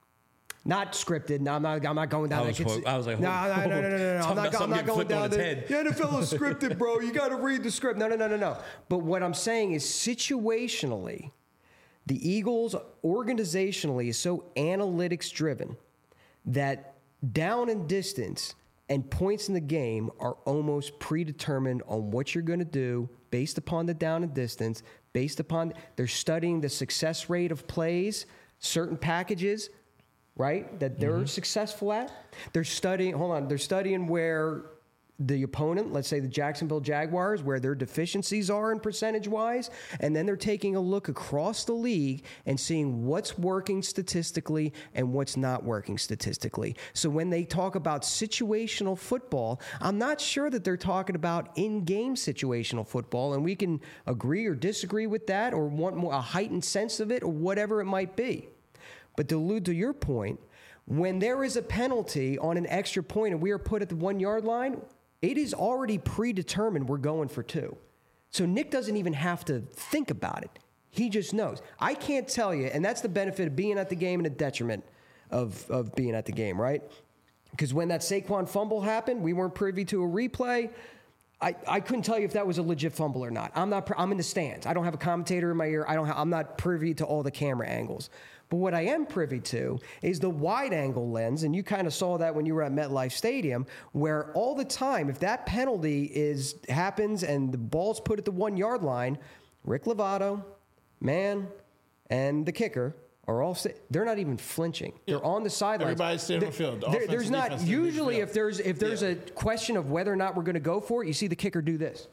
A: Not scripted. No, I'm not. I'm not going down.
B: I was,
A: that.
B: I was like,
A: no, no, no, no, no, no, no. I'm not, I'm not going down the
B: head.
A: The N F L is scripted, bro. You got to read the script. No, no, no, no, no. But what I'm saying is, situationally, the Eagles organizationally is so analytics driven that down and distance and points in the game are almost predetermined on what you're going to do based upon the down and distance, based upon they're studying the success rate of plays, certain packages. Right, that they're mm-hmm. successful at. They're studying, hold on, they're studying where the opponent, let's say the Jacksonville Jaguars, where their deficiencies are in percentage-wise, and then they're taking a look across the league and seeing what's working statistically and what's not working statistically. So when they talk about situational football, I'm not sure that they're talking about in-game situational football, and we can agree or disagree with that or want more, a heightened sense of it or whatever it might be. But to allude to your point, when there is a penalty on an extra point and we are put at the one-yard line, it is already predetermined we're going for two. So Nick doesn't even have to think about it. He just knows. I can't tell you, and that's the benefit of being at the game and a detriment of, of being at the game, right? Because when that Saquon fumble happened, we weren't privy to a replay. I, I couldn't tell you if that was a legit fumble or not. I'm not. I'm in the stands. I don't have a commentator in my ear. I don't. Have, I'm not privy to all the camera angles. But what I am privy to is the wide-angle lens, and you kind of saw that when you were at MetLife Stadium, where all the time, if that penalty is happens and the ball's put at the one-yard line, Rick Lovato, man, and the kicker are all st- they're not even flinching. Yeah. They're on the sidelines.
C: Everybody's staying on the field. The
A: there, there's not usually if there's if there's
C: yeah.
A: a question of whether or not we're going to go for it, you see the kicker do this.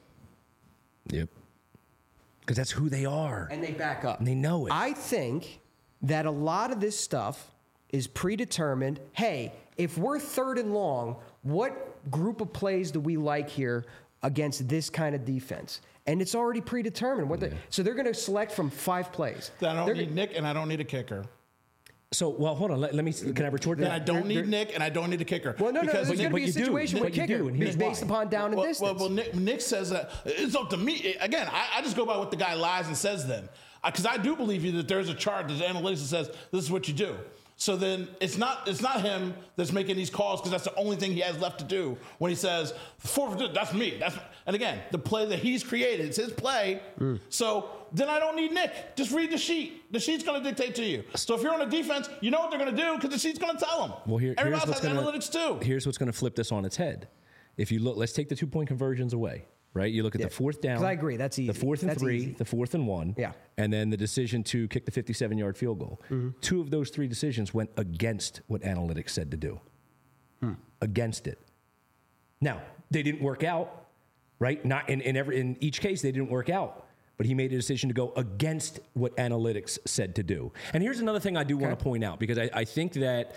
B: Yep. Because that's who they are.
A: And they back up.
B: And they know it.
A: I think that a lot of this stuff is predetermined. Hey, if we're third and long, what group of plays do we like here against this kind of defense? And it's already predetermined. What yeah. they, so they're going to select from five plays.
C: I don't
A: they're
C: need
A: gonna,
C: Nick, and I don't need a kicker.
B: So, well, hold on. Let, let me. Can I retort
C: And
B: that?
C: I don't need
A: they're-
C: Nick, and I don't need a kicker.
A: Well, no, no,
C: because
A: there's going to
B: but
A: be a
B: you do.
A: situation
B: But
A: with
B: you
A: kicker
B: do, and here's
A: based
B: why.
A: upon down and
C: well,
A: distance.
C: well, well, Nick, Nick says that it's up to me. Again, I, I just go by what the guy lies and says then. Because I do believe you that there's a chart, there's analytics that says this is what you do. So then it's not it's not him that's making these calls because that's the only thing he has left to do when he says four that's me. That's and again, the play that he's created, it's his play. Mm. So then I don't need Nick. Just read the sheet. The sheet's going to dictate to you. So if you're on a defense, you know what they're going to do because the sheet's going to tell them.
B: Well, here,
C: Everybody
B: here's
C: else
B: what's
C: has
B: gonna,
C: analytics too.
B: Here's what's going to flip this on its head. If you look, let's take the two point conversions away. Right, you look at
A: Yeah.
B: the fourth down.
A: 'Cause I agree, that's easy.
B: The fourth and
A: That's
B: three,
A: easy.
B: the fourth and one.
A: Yeah.
B: And then the decision to kick the fifty-seven yard field goal. Mm-hmm. Two of those three decisions went against what analytics said to do. Hmm. Against it. Now they didn't work out, right? Not in, in every in each case they didn't work out, but he made a decision to go against what analytics said to do. And here's another thing I do okay. want to point out because I, I think that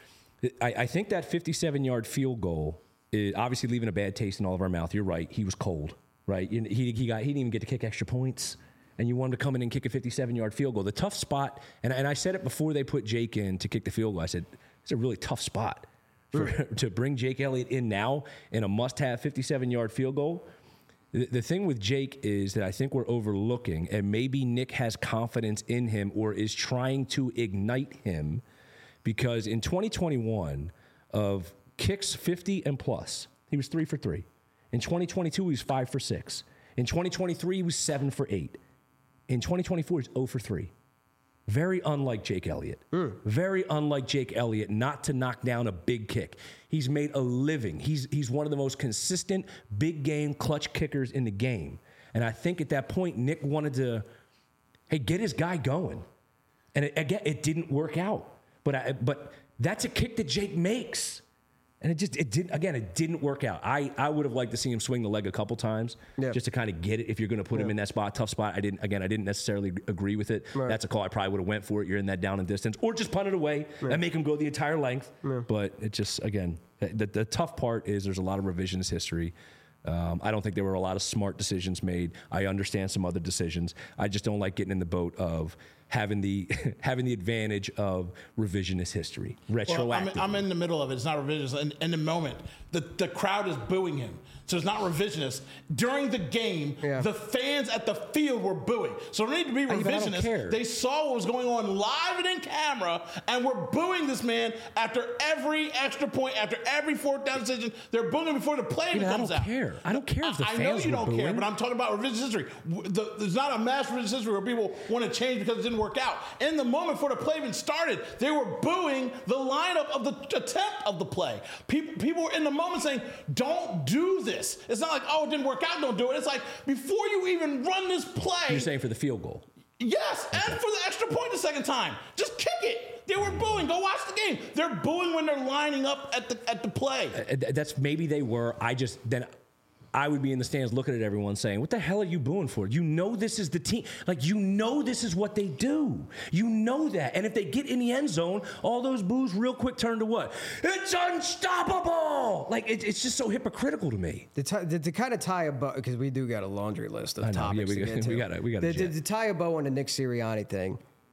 B: I, I think that fifty-seven yard field goal. It, obviously leaving a bad taste in all of our mouth. You're right. He was cold, right? He, he, got, he didn't even get to kick extra points, and you wanted to come in and kick a fifty-seven yard field goal. The tough spot, and, and I said it before they put Jake in to kick the field goal. I said, it's a really tough spot for, mm. to bring Jake Elliott in now in a must-have fifty-seven yard field goal. The, the thing with Jake is that I think we're overlooking, and maybe Nick has confidence in him or is trying to ignite him, because in twenty twenty-one of kicks fifty and plus, he was three for three. In twenty twenty-two, he was five for six. In twenty twenty-three, he was seven for eight. In twenty twenty-four, he's zero for three. Very unlike Jake Elliott. Mm. Very unlike Jake Elliott not to knock down a big kick. He's made a living. He's, he's one of the most consistent big game clutch kickers in the game. And I think at that point, Nick wanted to, hey, get his guy going. And it, again, it didn't work out. But I, but that's a kick that Jake makes. And it just, it didn't, again, it didn't work out. I, I would have liked to see him swing the leg a couple times yep. just to kind of get it if you're going to put yep. him in that spot, tough spot. I didn't, again, I didn't necessarily agree with it. Right. That's a call I probably would have went for it. You're in that down and distance. Or just punt it away right. and make him go the entire length. Yeah. But it just, again, the, the tough part is there's a lot of revisionist history. Um, I don't think there were a lot of smart decisions made. I understand some other decisions. I just don't like getting in the boat of having the having the advantage of revisionist history, retroactive.
C: Well, I'm, I'm in the middle of it. It's not revisionist. In, in the moment, the, the crowd is booing him. So it's not revisionist. During the game, yeah. the fans at the field were booing. So it didn't need to be revisionist. They saw what was going on live and in camera and were booing this man after every extra point, after every fourth down decision. They're booing him before the play even comes out.
B: I don't care. I don't care if the
C: I,
B: fans
C: I know you
B: were
C: don't
B: booing.
C: care, but I'm talking about revisionist history. The, there's not a mass revisionist history where people want to change because it didn't work out. In the moment before the play even started, they were booing the lineup of the attempt of the play. People, people were in the moment saying, don't do this. It's not like, oh, it didn't work out, don't do it. It's like, before you even run this play.
B: You're saying for the field goal.
C: Yes, okay. And for the extra point the second time. Just kick it. They were booing. Go watch the game. They're booing when they're lining up at the at the play.
B: Uh, that's maybe they were. I just, then I would be in the stands looking at everyone saying, what the hell are you booing for? You know this is the team. Like, you know this is what they do. You know that. And if they get in the end zone, all those boos real quick turn to what? It's unstoppable! Like, it, it's just so hypocritical to me.
A: To, t- to, to kind of tie a bow, because we do got a laundry list of
B: I know,
A: topics
B: yeah, we,
A: to get to.
B: We got we got
A: to, to, to tie a bow on the Nick Sirianni thing,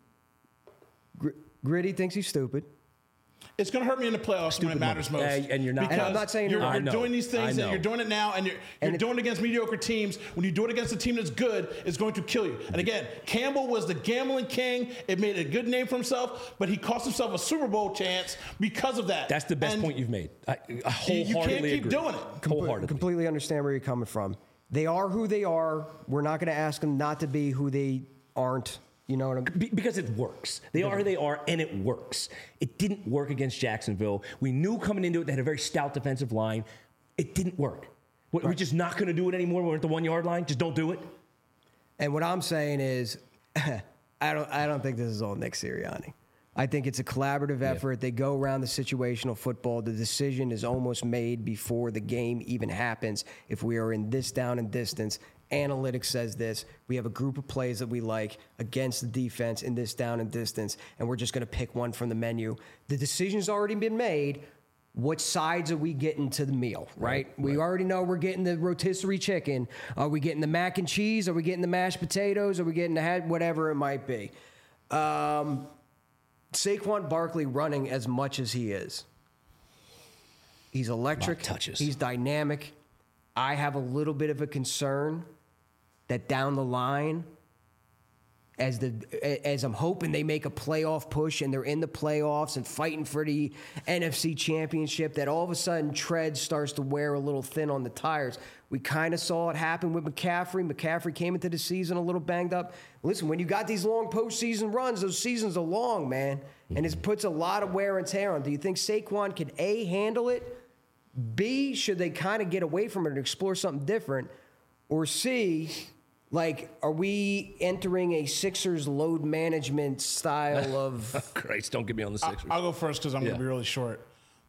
A: Gr- Gritty thinks he's stupid.
C: It's going to hurt me in the playoffs Stupid when it matters most.
B: Uh, and you're not.
A: And I'm not saying
C: you're,
A: you're,
C: you're doing these things. And you're doing it now, and you're, you're
A: and
C: doing it against mediocre teams. When you do it against a team that's good, it's going to kill you. And again, Campbell was the gambling king. It made a good name for himself, but he cost himself a Super Bowl chance because of that.
B: That's the best
C: and
B: point you've made. I, I wholeheartedly
C: you can't keep
B: agree.
C: doing it.
B: Wholeheartedly.
A: Completely understand where you're coming from. They are who they are. We're not going to ask them not to be who they aren't. You know what I'm
B: Be- because it works. They yeah. are who they are, and it works. It didn't work against Jacksonville. We knew coming into it they had a very stout defensive line. It didn't work. We're right. just not going to do it anymore. We're at the one-yard line. Just don't do it.
A: And what I'm saying is, I don't. I don't think this is all Nick Sirianni. I think it's a collaborative effort. Yeah. They go around the situational football. The decision is almost made before the game even happens. If we are in this down and distance, analytics says this. We have a group of plays that we like against the defense in this down and distance, and we're just going to pick one from the menu. The decision's already been made. What sides are we getting to the meal, right? right we right. already know we're getting the rotisserie chicken. Are we getting the mac and cheese? Are we getting the mashed potatoes? Are we getting the head? Whatever it might be. Um... Saquon Barkley running as much as he is, he's electric.
B: Touches.
A: He's dynamic. I have a little bit of a concern that down the line, as the as I'm hoping they make a playoff push and they're in the playoffs and fighting for the N F C Championship, that all of a sudden tread starts to wear a little thin on the tires. We kind of saw it happen with McCaffrey. McCaffrey came into the season a little banged up. Listen, when you got these long postseason runs, those seasons are long, man, and it puts a lot of wear and tear on. Do you think Saquon can A, handle it? B, should they kind of get away from it and explore something different? Or C, like, are we entering a Sixers load management style of...
B: Christ, don't get me on the Sixers.
C: I'll go first because I'm
B: Yeah.
C: going to be really short.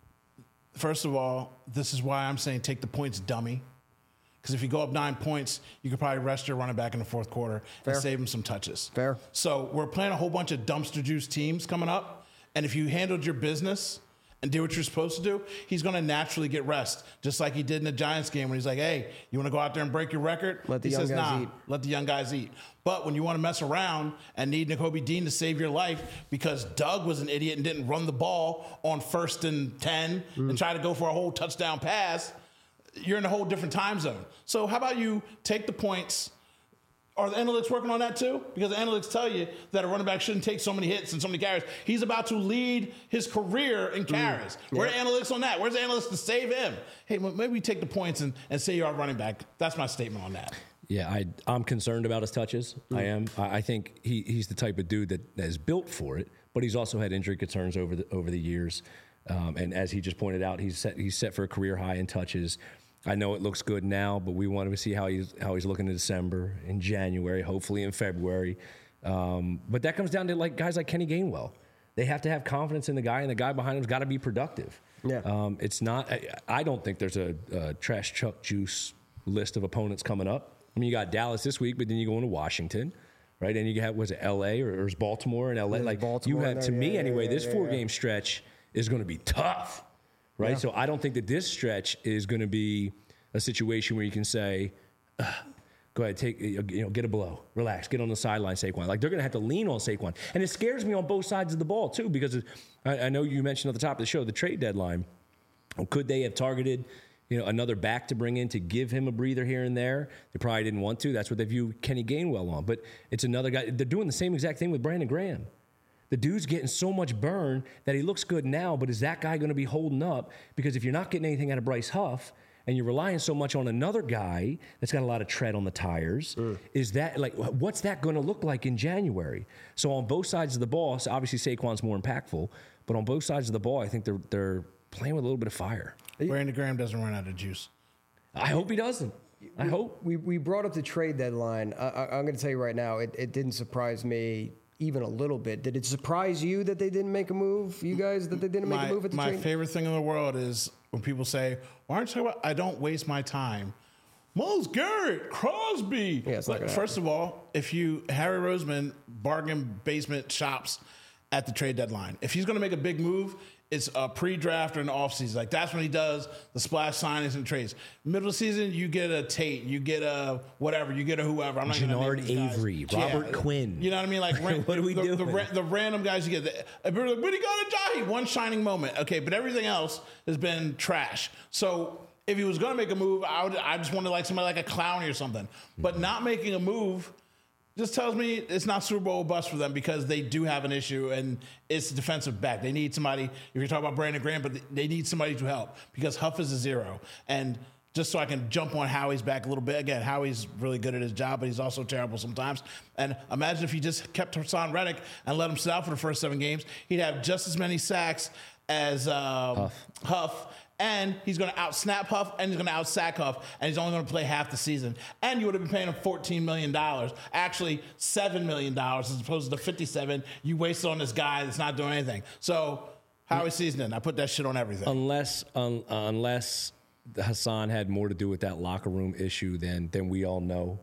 C: First of all, this is why I'm saying take the points, dummy. Because if you go up nine points, you could probably rest your running back in the fourth quarter
A: Fair.
C: and save him some touches.
A: Fair.
C: So we're playing a whole bunch of dumpster juice teams coming up. And if you handled your business and did what you're supposed to do, he's going to naturally get rest, just like he did in the Giants game when he's like, hey, you want to go out there and break your record?
A: Let the
C: he
A: young
C: says,
A: guys
C: nah,
A: eat.
C: let the young guys eat. But when you want to mess around and need Nakobe Dean to save your life because Doug was an idiot and didn't run the ball on first and ten
A: Mm.
C: and try to go for a whole touchdown pass, you're in a whole different time zone. So how about you take the points? Are the analytics working on that too? Because the analytics tell you that a running back shouldn't take so many hits and so many carries. He's about to lead his career in carries.
A: Mm.
C: Where
A: Yeah.
C: are the analytics on that? Where's the analytics to save him? Hey, well, maybe we take the points and, and say you're our running back. That's my statement on that.
B: Yeah, I, I'm concerned about his touches. I am. I, I think he, he's the type of dude that, that is built for it, but he's also had injury concerns over the over the years. Um, and as he just pointed out, he's set he's set for a career high in touches. I know it looks good now, but we want to see how he's how he's looking in December, in January, hopefully in February. Um, but that comes down to like guys like Kenny Gainwell. They have to have confidence in the guy, and the guy behind him's got to be productive.
A: Yeah.
B: Um, it's not. I, I don't think there's a, a trash chuck juice list of opponents coming up. I mean, you got Dallas this week, but then you go into Washington, right? And you have was it L A or, or is Baltimore and L A?
A: There's
B: Like
A: Baltimore
B: you
A: in
B: have
A: there,
B: to me
A: yeah,
B: anyway.
A: yeah,
B: this
A: yeah,
B: four
A: yeah.
B: game stretch is going to be tough, right?
A: Yeah.
B: So I don't think that this stretch is going to be a situation where you can say, "Ugh, go ahead, take you know, get a blow, relax, get on the sideline, Saquon. Like they're going to have to lean on Saquon, and it scares me on both sides of the ball too, because I, I know you mentioned at the top of the show the trade deadline. Could they have targeted, you know, another back to bring in to give him a breather here and there? They probably didn't want to. That's what they view Kenny Gainwell on. But it's another guy. They're doing the same exact thing with Brandon Graham. The dude's getting so much burn that he looks good now, but is that guy going to be holding up? Because if you're not getting anything out of Bryce Huff and you're relying so much on another guy that's got a lot of tread on the tires, mm. is that like, what's that going to look like in January? So on both sides of the ball, so obviously Saquon's more impactful, but on both sides of the ball, I think they're they're playing with a little bit of fire.
C: Brandon Graham doesn't run out of juice.
B: I hope he doesn't. I
A: we,
B: hope.
A: We we brought up the trade deadline. I, I, I'm going to tell you right now, it, it didn't surprise me even a little bit. Did it surprise you that they didn't make a move? You guys, that they didn't make
C: my,
A: a move at the
C: My
A: trade?
C: favorite thing in the world is when people say, why aren't you talking about, I don't waste my time. Myles Garrett, Crosby.
A: Yeah, it's not
C: But
A: gonna
C: first of all, if you, Harry Roseman, bargain basement shops at the trade deadline. If he's going to make a big move, it's a pre-draft or an offseason. Like, that's when he does the splash signings and trades. Middle of the season, you get a Tate, you get a whatever, you get a whoever. I'm not gonna
B: Jannard
C: name these guys.
B: Avery, Robert Quinn.
C: You know what I mean? Like, ran,
B: What are we
C: the,
B: doing?
C: The, the, the random guys you get. The, but he got a Jahi, one shining moment. Okay, but everything else has been trash. So if he was going to make a move, I would. I just wanted like somebody like a Clowney or something. But not making a move just tells me it's not Super Bowl bust for them, because they do have an issue, and it's defensive back. They need somebody. If you're talking about Brandon Graham, but they need somebody to help, because Huff is a zero. And just so I can jump on Howie's back a little bit. Again, Howie's really good at his job, but he's also terrible sometimes. And imagine if he just kept Hassan Reddick and let him sit out for the first seven games, he'd have just as many sacks as um, Huff. Huff. And he's going to out-snap Huff, and he's going to out-sack Huff, and he's only going to play half the season. And you would have been paying him fourteen million dollars, actually seven million dollars as opposed to fifty-seven you wasted on this guy that's not doing anything. So, Howie seasoning, I put that shit on everything.
B: Unless, un, unless Hassan had more to do with that locker room issue than than we all know.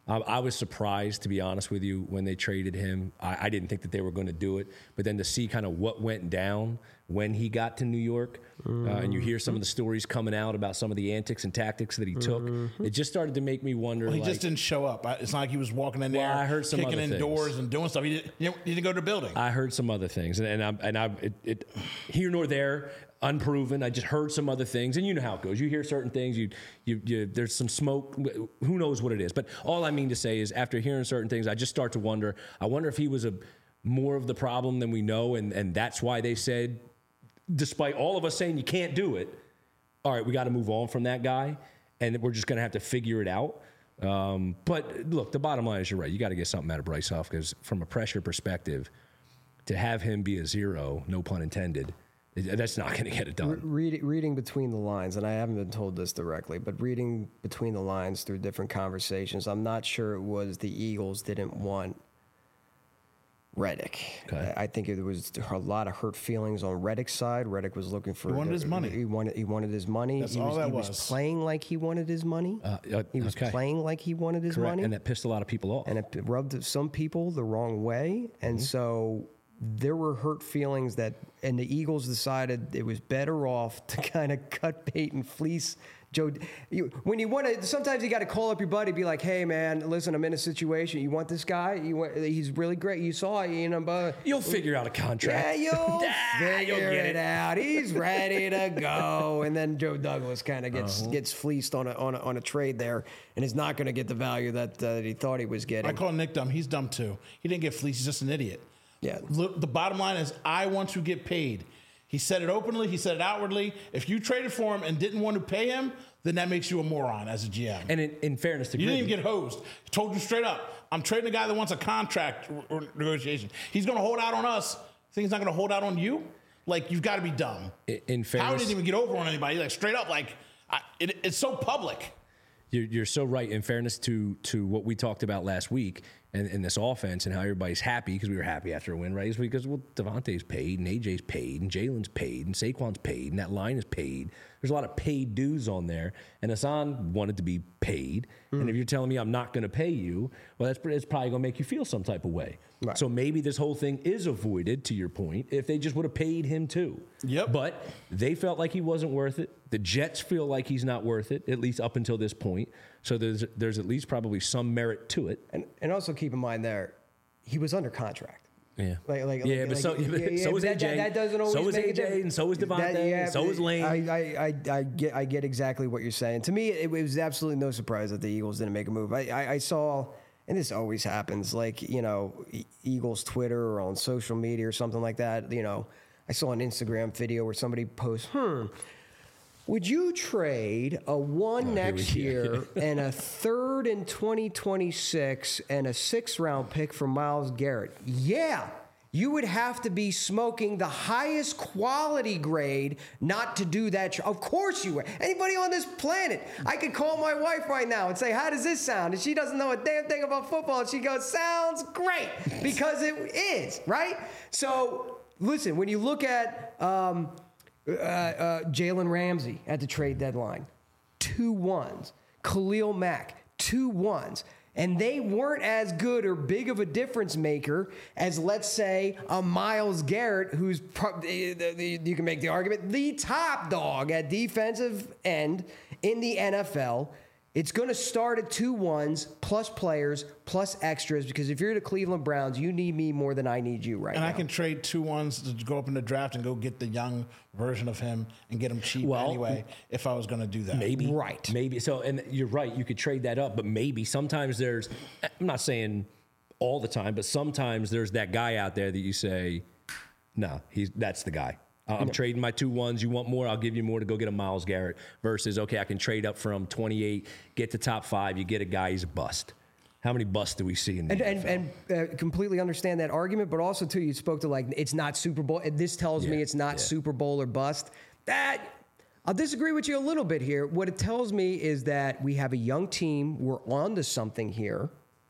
B: Um, I was surprised, to be honest with you, when they traded him. I, I didn't think that they were going to do it. But then to see kind of what went down when he got to New York, mm-hmm. uh, and you hear some of the stories coming out about some of the antics and tactics that he took, mm-hmm. it just started to make me wonder.
C: Well, he
B: like,
C: just didn't show up. It's not like he was walking in there,
B: well, I heard some
C: kicking
B: other
C: in
B: things.
C: doors and doing stuff. He didn't, he didn't go to the building.
B: I heard some other things, and, and I, and I, it, it, here nor there, unproven. I just heard some other things, and you know how it goes. You hear certain things, you, you, you, there's some smoke. Who knows what it is? But all I mean to say is, after hearing certain things, I just start to wonder. I wonder if he was a more of the problem than we know, and and that's why they said, despite all of us saying you can't do it, all right, we got to move on from that guy, and we're just going to have to figure it out. Um, but look, the bottom line is, you're right. You got to get something out of Bryce Huff, because from a pressure perspective, to have him be a zero, no pun intended, that's not going to get it done.
A: Read, reading between the lines, and I haven't been told this directly, but reading between the lines through different conversations, I'm not sure it was the Eagles didn't want Reddick.
B: Okay.
A: I think there was a lot of hurt feelings on Reddick's side. Reddick was looking for...
C: He wanted
A: the,
C: his money.
A: He wanted, he wanted his money.
C: That's
A: he
C: all
A: was,
C: that
A: he was.
C: was.
A: playing like he wanted his money.
B: Uh, uh,
A: he was
B: okay.
A: playing like he wanted his
B: Correct.
A: money.
B: And that pissed a lot of people off.
A: And it rubbed some people the wrong way. And mm-hmm. so there were hurt feelings that, and the Eagles decided it was better off to kind of cut bait and fleece Joe. You, when you want to, sometimes you got to call up your buddy, be like, "Hey, man, listen, I'm in a situation. You want this guy? You want? He's really great. You saw it, you know, but
B: you'll figure out a contract.
A: Yeah, you'll
B: ah,
A: figure
B: you'll get
A: it,
B: it
A: out. He's ready to go." And then Joe Douglas kind of gets uh-huh. gets fleeced on a, on a on a trade there, and is not going to get the value that uh, he thought he was getting.
C: I call Nick dumb. He's dumb too. He didn't get fleeced. He's just an idiot.
A: Yeah.
C: Look, the bottom line is, I want to get paid. He said it openly. He said it outwardly. If you traded for him and didn't want to pay him, then that makes you a moron as a G M.
B: And in, in fairness to
C: you
B: Gruden,
C: didn't even get hosed. He told you straight up, I'm trading a guy that wants a contract or negotiation. He's going to hold out on us. Think he's not going to hold out on you? Like, you've got to be dumb.
B: In, in fairness,
C: Howard didn't even get over on anybody. Like, straight up, like, I, it, it's so public.
B: You're, you're so right. In fairness to to what we talked about last week and, and this offense and how everybody's happy, because we were happy after a win, right? It's because, well, Devontae's paid and A J's paid and Jalen's paid and Saquon's paid and that line is paid. There's a lot of paid dues on there. And Hassan wanted to be paid. Mm. And if you're telling me I'm not going to pay you, well, that's it's probably going to make you feel some type of way. Right. So maybe this whole thing is avoided, to your point, if they just would have paid him too.
C: Yep.
B: But they felt like he wasn't worth it. The Jets feel like he's not worth it, at least up until this point. So there's there's at least probably some merit to it.
A: And and also keep in mind there, he was under contract.
B: Yeah,
A: like, like,
B: yeah,
A: like,
B: but so,
A: like, yeah,
B: so was
A: that,
B: A J.
A: That, that doesn't always
B: so was
A: make
B: A J, and so was Devontae,
A: that, yeah,
B: and so was Lane.
A: I, I, I, I get I get exactly what you're saying. To me, it was absolutely no surprise that the Eagles didn't make a move. I, I, I saw, and this always happens, like, you know, Eagles Twitter or on social media or something like that. You know, I saw an Instagram video where somebody posts, hmm. Would you trade a one oh, next year and a third in twenty twenty-six and a sixth round pick for Myles Garrett? Yeah, you would have to be smoking the highest quality grade not to do that. Tr- of course you would. Anybody on this planet, I could call my wife right now and say, "How does this sound?" And she doesn't know a damn thing about football. And she goes, "Sounds great," because it is, right? So listen, when you look at um, Uh, uh, Jalen Ramsey at the trade deadline, two ones. Khalil Mack, two ones. And they weren't as good or big of a difference maker as, let's say, a Myles Garrett, who's, pro- you can make the argument, the top dog at defensive end in the N F L. It's going to start at two ones, plus players, plus extras, because if you're the Cleveland Browns, you need me more than I need you right
C: and
A: now.
C: And I can trade two ones to go up in the draft and go get the young version of him and get him cheap
B: well,
C: anyway, if I was going to do that.
B: Maybe.
A: Right.
B: Maybe. So, and you're right, you could trade that up, but maybe sometimes there's, I'm not saying all the time, but sometimes there's that guy out there that you say, no, he's that's the guy. I'm yeah. trading my two ones. You want more? I'll give you more to go get a Myles Garrett. Versus, okay, I can trade up from twenty-eight, get to top five. You get a guy, he's a bust. How many busts do we see in the
A: and,
B: N F L?
A: And, and uh, completely understand that argument, but also too, you spoke to like it's not Super Bowl. This tells
B: yeah.
A: me it's not
B: yeah.
A: Super Bowl or bust. That I'll disagree with you a little bit here. What it tells me is that we have a young team. We're on to something here.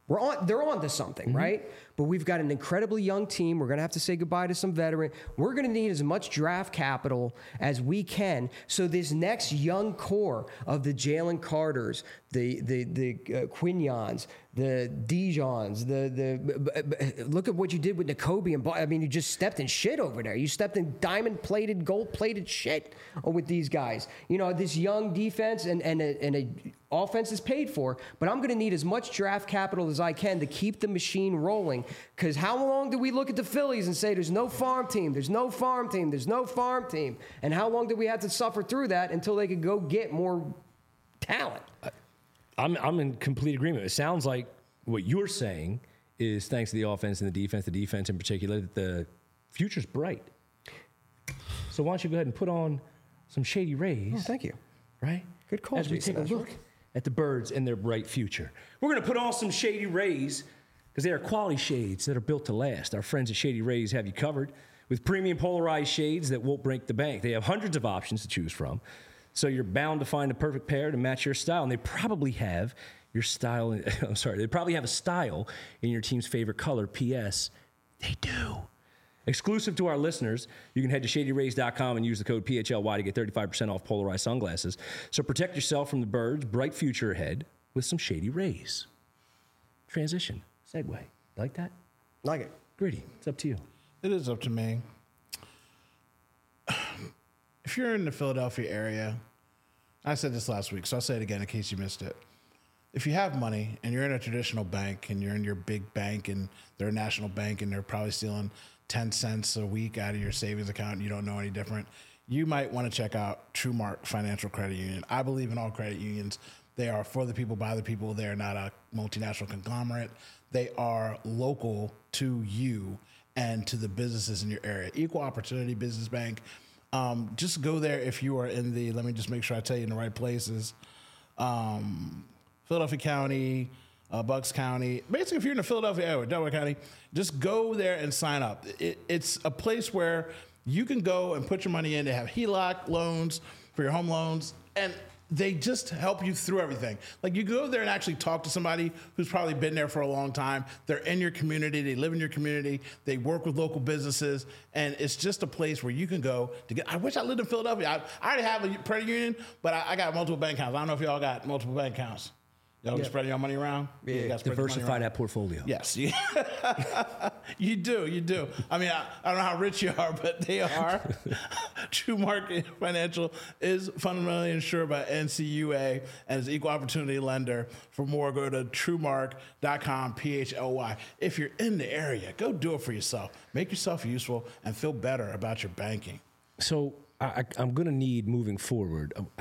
A: We're on. They're on to something, mm-hmm. right? But we've got an incredibly young team. We're going to have to say goodbye to some veteran. We're going to need as much draft capital as we can. So this next young core of the Jalen Carters, the the the uh, Quignons, the Dijons, the the look at what you did with Nakobe and I mean, you just stepped in shit over there. You stepped in diamond plated, gold plated shit with these guys. You know, this young defense and and a, and a offense is paid for, but I'm going to need as much draft capital as I can to keep the machine rolling. Because how long do we look at the Phillies and say there's no farm team, there's no farm team, there's no farm team? And how long do we have to suffer through that until they could go get more talent?
B: I'm I'm in complete agreement. It sounds like what you're saying is thanks to the offense and the defense, the defense in particular, that the future's bright. So why don't you go ahead and put on some Shady Rays?
A: Oh, thank you.
B: Right?
A: Good call,
B: As we
A: Jason
B: take a
A: Ashford.
B: look at the birds and their bright future. We're going to put on some Shady Rays because they are quality shades that are built to last. Our friends at Shady Rays have you covered with premium polarized shades that won't break the bank. They have hundreds of options to choose from, so you're bound to find a perfect pair to match your style. And they probably have your style. In, I'm sorry, they probably have a style in your team's favorite color. P S They do. Exclusive to our listeners, you can head to shady rays dot com and use the code P H L Y to get thirty-five percent off polarized sunglasses. So protect yourself from the birds' bright future ahead with some Shady Rays. Transition. Segue. Like that?
A: Like it.
B: Gritty, it's up to you.
C: It is up to me. If you're in the Philadelphia area, I said this last week, so I'll say it again in case you missed it. If you have money and you're in a traditional bank and you're in your big bank and they're a national bank and they're probably stealing ten cents a week out of your savings account and you don't know any different, you might want to check out TrueMark Financial Credit Union. I believe in all credit unions. They are for the people, by the people. They are not a multinational conglomerate. They are local to you and to the businesses in your area. Equal Opportunity Business Bank. Um, just go there if you are in the, let me just make sure I tell you in the right places. Um, Philadelphia County, uh, Bucks County. Basically, if you're in the Philadelphia area, Delaware County, just go there and sign up. It, it's a place where you can go and put your money in. They have H E L O C loans for your home loans, and they just help you through everything. Like, you go there and actually talk to somebody who's probably been there for a long time. They're in your community. They live in your community. They work with local businesses. And it's just a place where you can go to get. I wish I lived in Philadelphia. I, I already have a credit union, but I, I got multiple bank accounts. I don't know if y'all got multiple bank accounts. Y'all yeah. spreading your money around?
A: Yeah,
C: you
B: diversify that portfolio.
C: Yes. You do. You do. I mean, I, I don't know how rich you are, but they are. TrueMark Financial is fundamentally insured by N C U A and is an equal opportunity lender. For more, go to true mark dot com, P H L Y. If you're in the area, go do it for yourself. Make yourself useful and feel better about your banking.
B: So I, I, I'm going to need moving forward. I,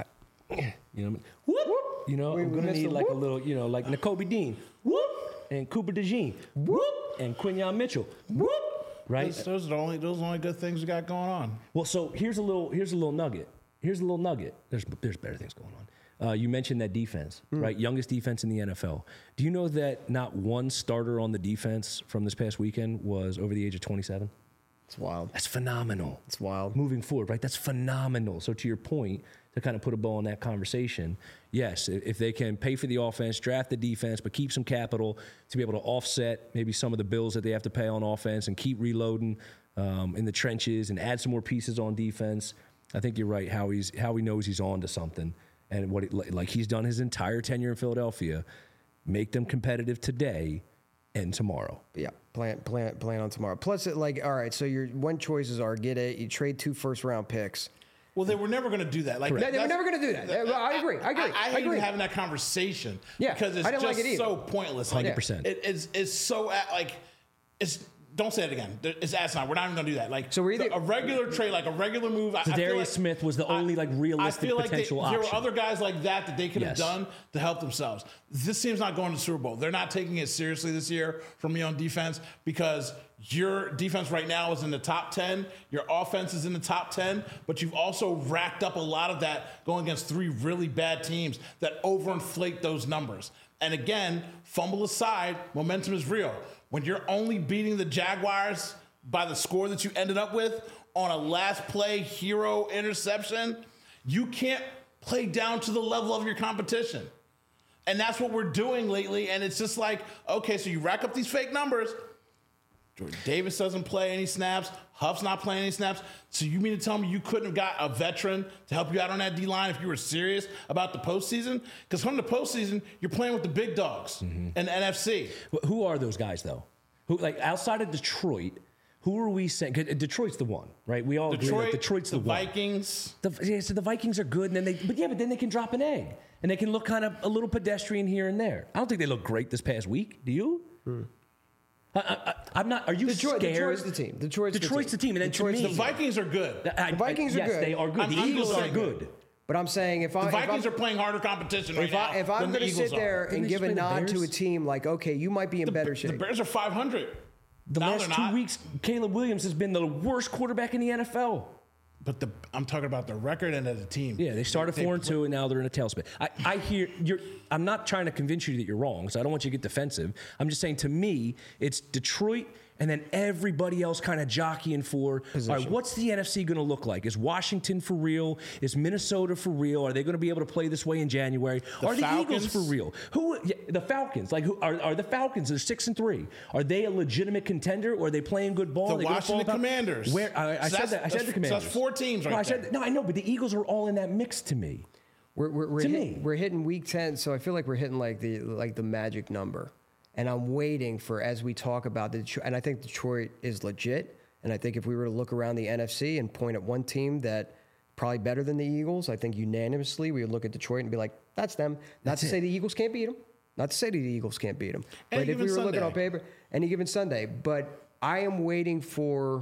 B: you know, whoop, you know,
A: we,
B: I'm going to need like whoop. a little, you know, like Nakobe Dean, whoop, and Cooper DeJean, whoop, and Quinyon Mitchell, whoop, right?
C: Those, those are the only those are the only good things we got going on.
B: Well, so here's a little here's a little nugget. Here's a little nugget. There's there's better things going on. Uh, you mentioned that defense, mm. right? Youngest defense in the N F L. Do you know that not one starter on the defense from this past weekend was over the age of twenty-seven?
A: It's wild.
B: That's phenomenal.
A: It's wild.
B: Moving forward, right? That's phenomenal. So to your point, to kind of put a bow on that conversation, yes, if they can pay for the offense, draft the defense, but keep some capital to be able to offset maybe some of the bills that they have to pay on offense and keep reloading um, in the trenches and add some more pieces on defense, I think you're right. Howie's Howie knows he's on to something, and what it, like he's done his entire tenure in Philadelphia, make them competitive today and tomorrow.
A: Yeah, plan plan plan on tomorrow. Plus, it like all right. So your one choices are get it. You trade two first round picks.
C: Well, they were never going to do that. Like
A: that, they were never going to do that. that I agree. I agree.
C: I, I, I hate
A: agree.
C: having that conversation.
A: Yeah,
C: because it's
A: I didn't
C: just
A: like it
C: so pointless.
B: one hundred percent.
C: It, it's it's so like it's. Don't say it again. It's asinine. We're not even going to do that. Like
A: so, we're either,
C: a regular trade, like a regular move.
B: So Darius like, Smith was the only like realistic
C: I feel like
B: potential
C: they,
B: option.
C: There were other guys like that that they could
B: yes.
C: have done to help themselves. This team's not going to the Super Bowl. They're not taking it seriously this year from me on defense because your defense right now is in the top ten. Your offense is in the top ten, but you've also racked up a lot of that going against three really bad teams that overinflate those numbers. And again, fumble aside, momentum is real. When you're only beating the Jaguars by the score that you ended up with on a last play hero interception, you can't play down to the level of your competition. And that's what we're doing lately. And it's just like, okay, so you rack up these fake numbers. Jordan Davis doesn't play any snaps. Huff's not playing any snaps. So you mean to tell me you couldn't have got a veteran to help you out on that D-line if you were serious about the postseason? Because from the postseason, you're playing with the big dogs mm-hmm. in the N F C.
B: Who are those guys, though? Who, like, outside of Detroit, who are we saying? Detroit's the one, right? We all
C: Detroit,
B: agree that Detroit's the,
C: the
B: one.
C: Vikings.
B: The, yeah, so the Vikings are good, and then they, but yeah, but then they can drop an egg, and they can look kind of a little pedestrian here and there. I don't think they look great this past week. Do you? Hmm. I, I, I'm not. Are you
A: Detroit,
B: scared?
A: Detroit's the team. Detroit's,
B: Detroit's the team.
A: the team.
B: And then
A: Detroit's
B: to me,
C: the Vikings are good.
B: I,
A: the Vikings
B: I,
A: are
B: yes,
A: good.
B: They are good.
C: I'm,
B: the
C: I'm
B: Eagles are
C: saying
B: good.
A: But I'm saying if I
C: the Vikings
A: if
C: are playing harder competition right
A: if
C: now.
A: I, if I'm
C: going to
A: sit there
C: are.
A: and give a nod to a team like, okay, you might be in
C: the,
A: better shape.
C: The Bears are five hundred.
B: The
C: no,
B: last two
C: not.
B: weeks, Caleb Williams has been the worst quarterback in the N F L.
C: But the I'm talking about the record and as a team.
B: Yeah, they started
C: they,
B: four and two, and now they're in a tailspin. I, I hear you're. I'm not trying to convince you that you're wrong, so I don't want you to get defensive. I'm just saying, to me, it's Detroit. And then everybody else kind of jockeying for, Position. all right, what's the N F C going to look like? Is Washington for real? Is Minnesota for real? Are they going to be able to play this way in January?
C: The
B: are
C: Falcons?
B: the Eagles for real? Who? Yeah, the Falcons. Like, who are, are the Falcons? They're six and three. Are they a legitimate contender, or are they playing good ball?
C: The Washington Commanders.
B: Where I, I
C: so
B: said that. I said the Commanders.
C: So that's four teams right
B: no, I
C: there.
B: said, no, I know, but the Eagles are all in that mix to me.
A: We're we're, we're,
B: to
A: hit,
B: me.
A: we're hitting week ten, so I feel like we're hitting like the like the magic number. And I'm waiting for, as we talk about the Detroit, and I think Detroit is legit. And I think if we were to look around the N F C and point at one team that probably better than the Eagles, I think unanimously we would look at Detroit and be like, that's them. Not
B: that's
A: to
B: it.
A: say the Eagles can't beat them. Not to say the Eagles can't beat them.
C: Any
A: But if we were
C: given
A: looking on
C: Sunday.
A: paper, any given Sunday. But I am waiting for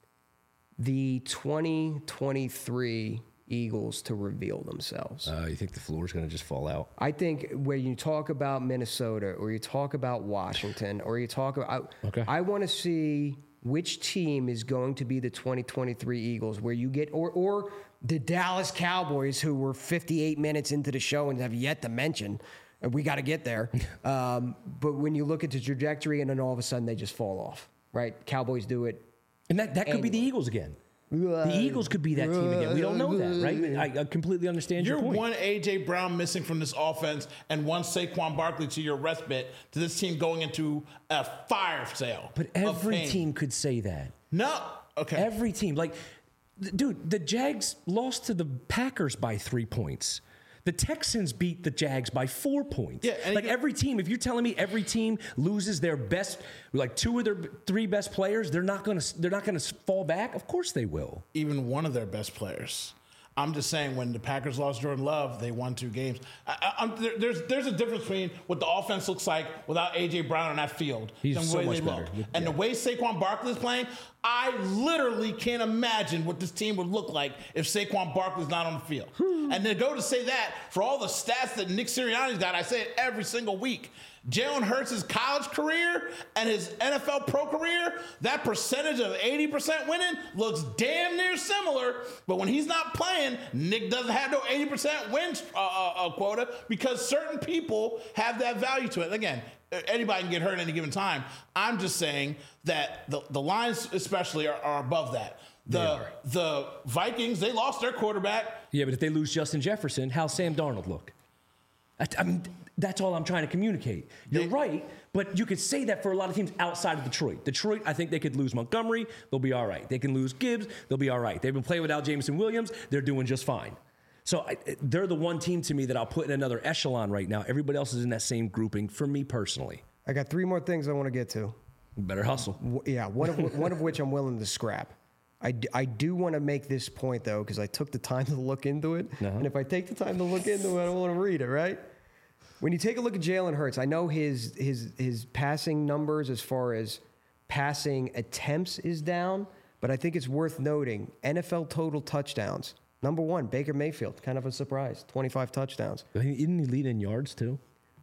A: the twenty twenty-three Eagles to reveal themselves.
B: Uh, you think the floor is going to just fall out?
A: I think when you talk about Minnesota or you talk about Washington or you talk about,
B: Okay.
A: I, I want to see which team is going to be the twenty twenty-three Eagles where you get, or, or the Dallas Cowboys who were fifty-eight minutes into the show and have yet to mention, and we got to get there. um, but when you look at the trajectory and then all of a sudden they just fall off, right? Cowboys do it.
B: And that, that could be the Eagles again. The Eagles could be that team again. We don't know that, right? I, I completely understand
C: You're
B: your point.
C: one A J Brown missing from this offense and one Saquon Barkley to your respite to this team going into a fire sale.
B: But
C: of
B: every
C: pain.
B: team could say that.
C: No. Okay.
B: Every team. Like, th- dude, the Jags lost to the Packers by three points. The Texans beat the Jags by four points.
C: Yeah, and
B: like
C: you-
B: every team, if you're telling me every team loses their best, like two of their three best players, they're not gonna they're not gonna fall back. Of course they will.
C: Even one of their best players. I'm just saying, when the Packers lost Jordan Love, they won two games. I, I, I'm, there, there's there's a difference between what the offense looks like without A J Brown on that field
B: He's
C: and the
B: so
C: way
B: much
C: they
B: better.
C: look.
B: Yeah.
C: And the way Saquon Barkley is playing, I literally can't imagine what this team would look like if Saquon Barkley's not on the field. And to go to say that, for all the stats that Nick Sirianni's got, I say it every single week. Jalen Hurts' college career and his N F L pro career, that percentage of eighty percent winning looks damn near similar. But when he's not playing, Nick doesn't have no eighty percent win uh, uh, uh, quota because certain people have that value to it. Again, anybody can get hurt at any given time. I'm just saying that the, the Lions especially are, are above that. The the Vikings, they lost their quarterback.
B: Yeah, but if they lose Justin Jefferson, how's Sam Darnold look? I, I mean, that's all I'm trying to communicate. You're
C: They-
B: right, but you could say that for a lot of teams outside of Detroit. Detroit, I think they could lose Montgomery. They'll be all right. They can lose Gibbs. They'll be all right. They've been playing without Jameson Williams. They're doing just fine. So I, they're the one team to me that I'll put in another echelon right now. Everybody else is in that same grouping for me personally.
A: I got three more things I want to get to.
B: Better hustle.
A: W- Yeah, one of one of which I'm willing to scrap. I, d- I do want to make this point though because I took the time to look into it,
B: Uh-huh.
A: and if I take the time to look into it, I don't want to read it. Right? When you take a look at Jalen Hurts, I know his his his passing numbers as far as passing attempts is down, but I think it's worth noting N F L total touchdowns. Number one, Baker Mayfield, kind of a surprise, twenty-five touchdowns.
B: Didn't he lead in yards too?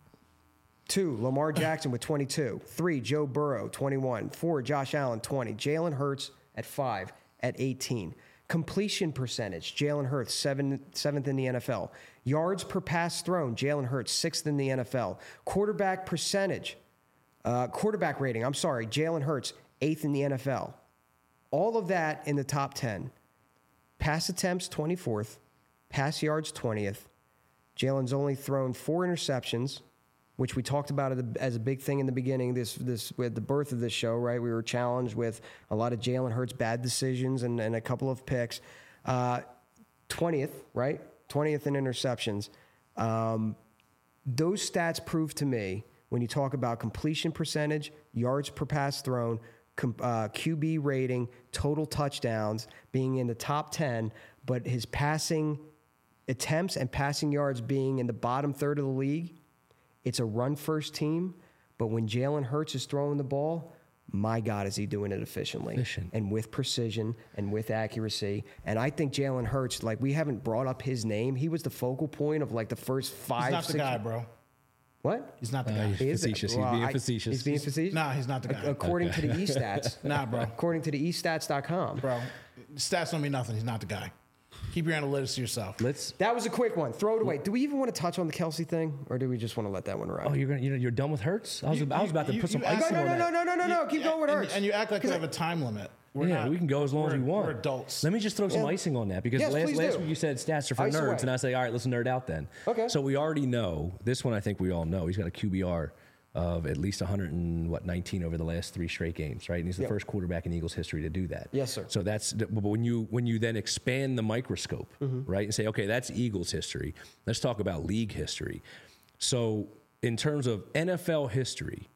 A: Two, Lamar Jackson with twenty-two. Three, Joe Burrow, twenty-one. Four, Josh Allen, twenty. Jalen Hurts at five, at eighteen. Completion percentage, Jalen Hurts, seven, seventh in the N F L. Yards per pass thrown, Jalen Hurts, sixth in the N F L. Quarterback percentage, uh, quarterback rating, I'm sorry, Jalen Hurts, eighth in the N F L. All of that in the top ten. Pass attempts, twenty-fourth. Pass yards, twentieth. Jalen's only thrown four interceptions, which we talked about as a big thing in the beginning, this this with the birth of this show, right? We were challenged with a lot of Jalen Hurts bad decisions and, and a couple of picks. Uh, twentieth, right? twentieth in interceptions. Um, those stats prove to me, when you talk about completion percentage, yards per pass thrown, com, uh, Q B rating, total touchdowns, being in the top ten, but his passing attempts and passing yards being in the bottom third of the league. It's a run-first team, but when Jalen Hurts is throwing the ball, my God, is he doing it efficiently
B: Efficient.
A: and with precision and with accuracy. And I think Jalen Hurts, like, we haven't brought up his name. He was the focal point of, like, the first five,
C: He's not
A: six...
C: the guy, bro.
A: What?
C: He's not the
B: Uh,
C: guy.
B: he's
A: He is the-
B: facetious.
A: well,
B: he's being
A: I-
B: facetious.
A: He's being facetious?
C: Nah, he's not the guy.
A: According to the e-stats.
C: Nah, bro.
A: According to the e stats dot com.
C: Bro, stats don't mean nothing. He's not the guy. Keep your analytics to yourself.
B: Let's.
A: That was a quick one. Throw it away. Do we even want to touch on the Kelsey thing, or do we just want to let that one ride?
B: Oh, you're gonna. You're, you're done with Hurts? I was.
C: You-
B: I was about to
C: you-
B: put some
C: you-
B: icing
A: no,
B: on
A: no,
B: that.
A: no, no, no, no, no. Keep going with
C: and,
A: Hurts.
C: and you act like we have a time limit. We're
B: yeah,
C: not.
B: we can go as long as
C: We're-
B: we want.
C: We're adults.
B: Let me just throw some
A: Yeah.
B: icing on that because
A: Yes,
B: last,
A: please
B: last
A: do.
B: week you said stats are for
A: Ice
B: nerds,
A: away.
B: and I say, all right, let's nerd out then.
A: Okay.
B: So we already know this one. I think we all know he's got a Q B R of at least one hundred and what nineteen over the last three straight games, right? And he's the
A: Yep.
B: first quarterback in Eagles history to do that.
A: Yes, sir.
B: So that's but when you when you then expand the microscope,
A: Mm-hmm.
B: right, and say, okay, that's Eagles history. Let's talk about league history. So in terms of N F L history,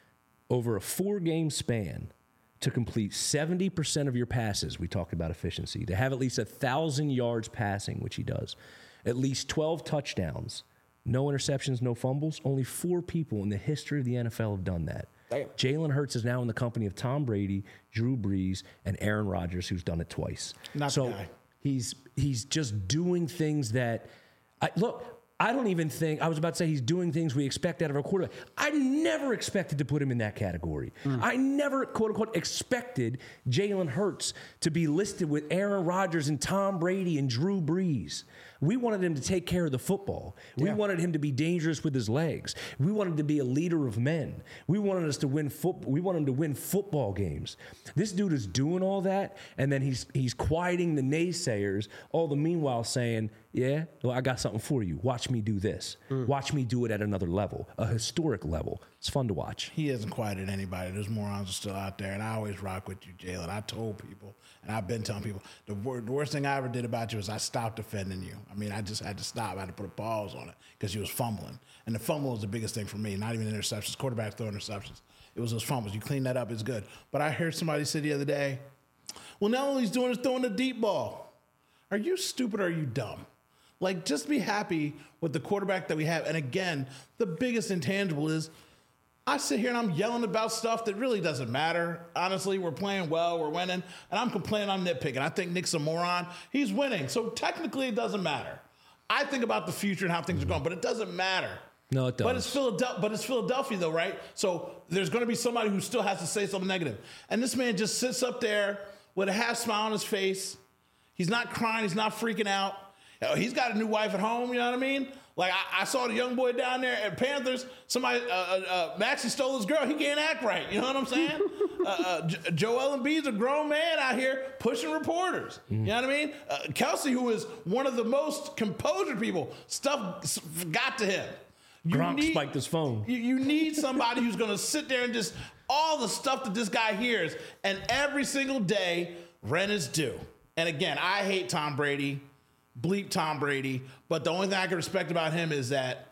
B: over a four-game span, to complete seventy percent of your passes, we talked about efficiency, to have at least one thousand yards passing, which he does, at least twelve touchdowns, no interceptions, no fumbles. Only four people in the history of the N F L have done that.
A: Damn.
B: Jalen Hurts is now in the company of Tom Brady, Drew Brees, and Aaron Rodgers, who's done it twice.
C: Not the
B: so
C: guy.
B: he's he's just doing things that, I, look, I don't even think, I was about to say he's doing things we expect out of a quarterback. I never expected to put him in that category.
A: Mm.
B: I never, quote unquote, expected Jalen Hurts to be listed with Aaron Rodgers and Tom Brady and Drew Brees. We wanted him to take care of the football. We
A: Yeah.
B: wanted him to be dangerous with his legs. We wanted him to be a leader of men. We wanted us to win foot. We want him to win football games. This dude is doing all that, and then he's he's quieting the naysayers. All the meanwhile saying, "Yeah, well, I got something for you. Watch me do this. Watch me do it at another level, a historic level." It's fun to watch.
C: He hasn't quieted anybody. Those morons are still out there, and I always rock with you, Jalen. I told people, and I've been telling people, the, wor- the worst thing I ever did about you is I stopped defending you. I mean, I just had to stop. I had to put a pause on it because you was fumbling. And the fumble was the biggest thing for me, not even interceptions. Quarterbacks throw interceptions. It was those fumbles. You clean that up, it's good. But I heard somebody say the other day, well, now all he's doing is throwing the deep ball. Are you stupid or are you dumb? Like, just be happy with the quarterback that we have. And again, the biggest intangible is I sit here and I'm yelling about stuff that really doesn't matter. Honestly, we're playing well, we're winning, and I'm complaining, I'm nitpicking. I think Nick's a moron. He's winning, so technically it doesn't matter. I think about the future and how things are going, but it doesn't matter.
B: No, it does.
C: But it's Philadelphia, but it's Philadelphia though, right? So there's going to be somebody who still has to say something negative. And this man just sits up there with a half smile on his face. He's not crying, he's not freaking out. He's got a new wife at home, you know what I mean? Like, I, I saw the young boy down there at Panthers. Somebody, uh, uh, uh, Maxie stole his girl. He can't act right. You know what I'm saying? uh, uh, J- Joel Embiid's a grown man out here pushing reporters. Mm. You know what I mean? Uh, Kelsey, who is one of the most composed people, stuff got to him. You
B: Gronk
C: need,
B: spiked his phone.
C: You, you need somebody who's going to sit there and just all the stuff that this guy hears. And every single day, rent is due. And again, I hate Tom Brady. Bleep Tom Brady, but the only thing I can respect about him is that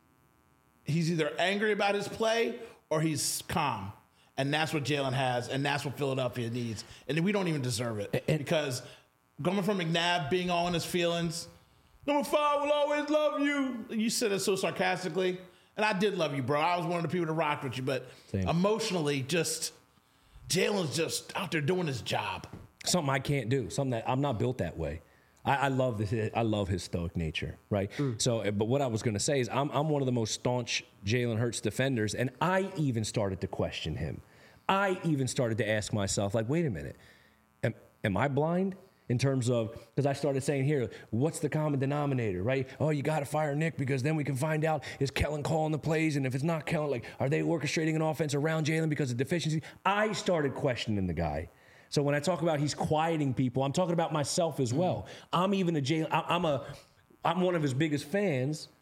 C: he's either angry about his play or he's calm. And that's what Jalen has, and that's what Philadelphia needs. And we don't even deserve it.
B: And,
C: because coming from McNabb being all in his feelings, number five will always love you. You said it so sarcastically. And I did love you, bro. I was one of the people that rocked with you, but
B: Same.
C: emotionally, just Jalen's just out there doing his job.
B: Something I can't do. Something that I'm not built that way. I, I love this. I love his stoic nature, right? Mm. So, but what I was going to say is, I'm I'm one of the most staunch Jalen Hurts defenders, and I even started to question him. I even started to ask myself, like, wait a minute, am, am I blind? In terms of, because I started saying here, what's the common denominator, right? Oh, you got to fire Nick because then we can find out, is Kellen calling the plays? And if it's not Kellen, like, are they orchestrating an offense around Jalen because of deficiency? I started questioning the guy. So when I talk about he's quieting people, I'm talking about myself as well. I'm even a Jalen, I'm a, I'm one of his biggest fans,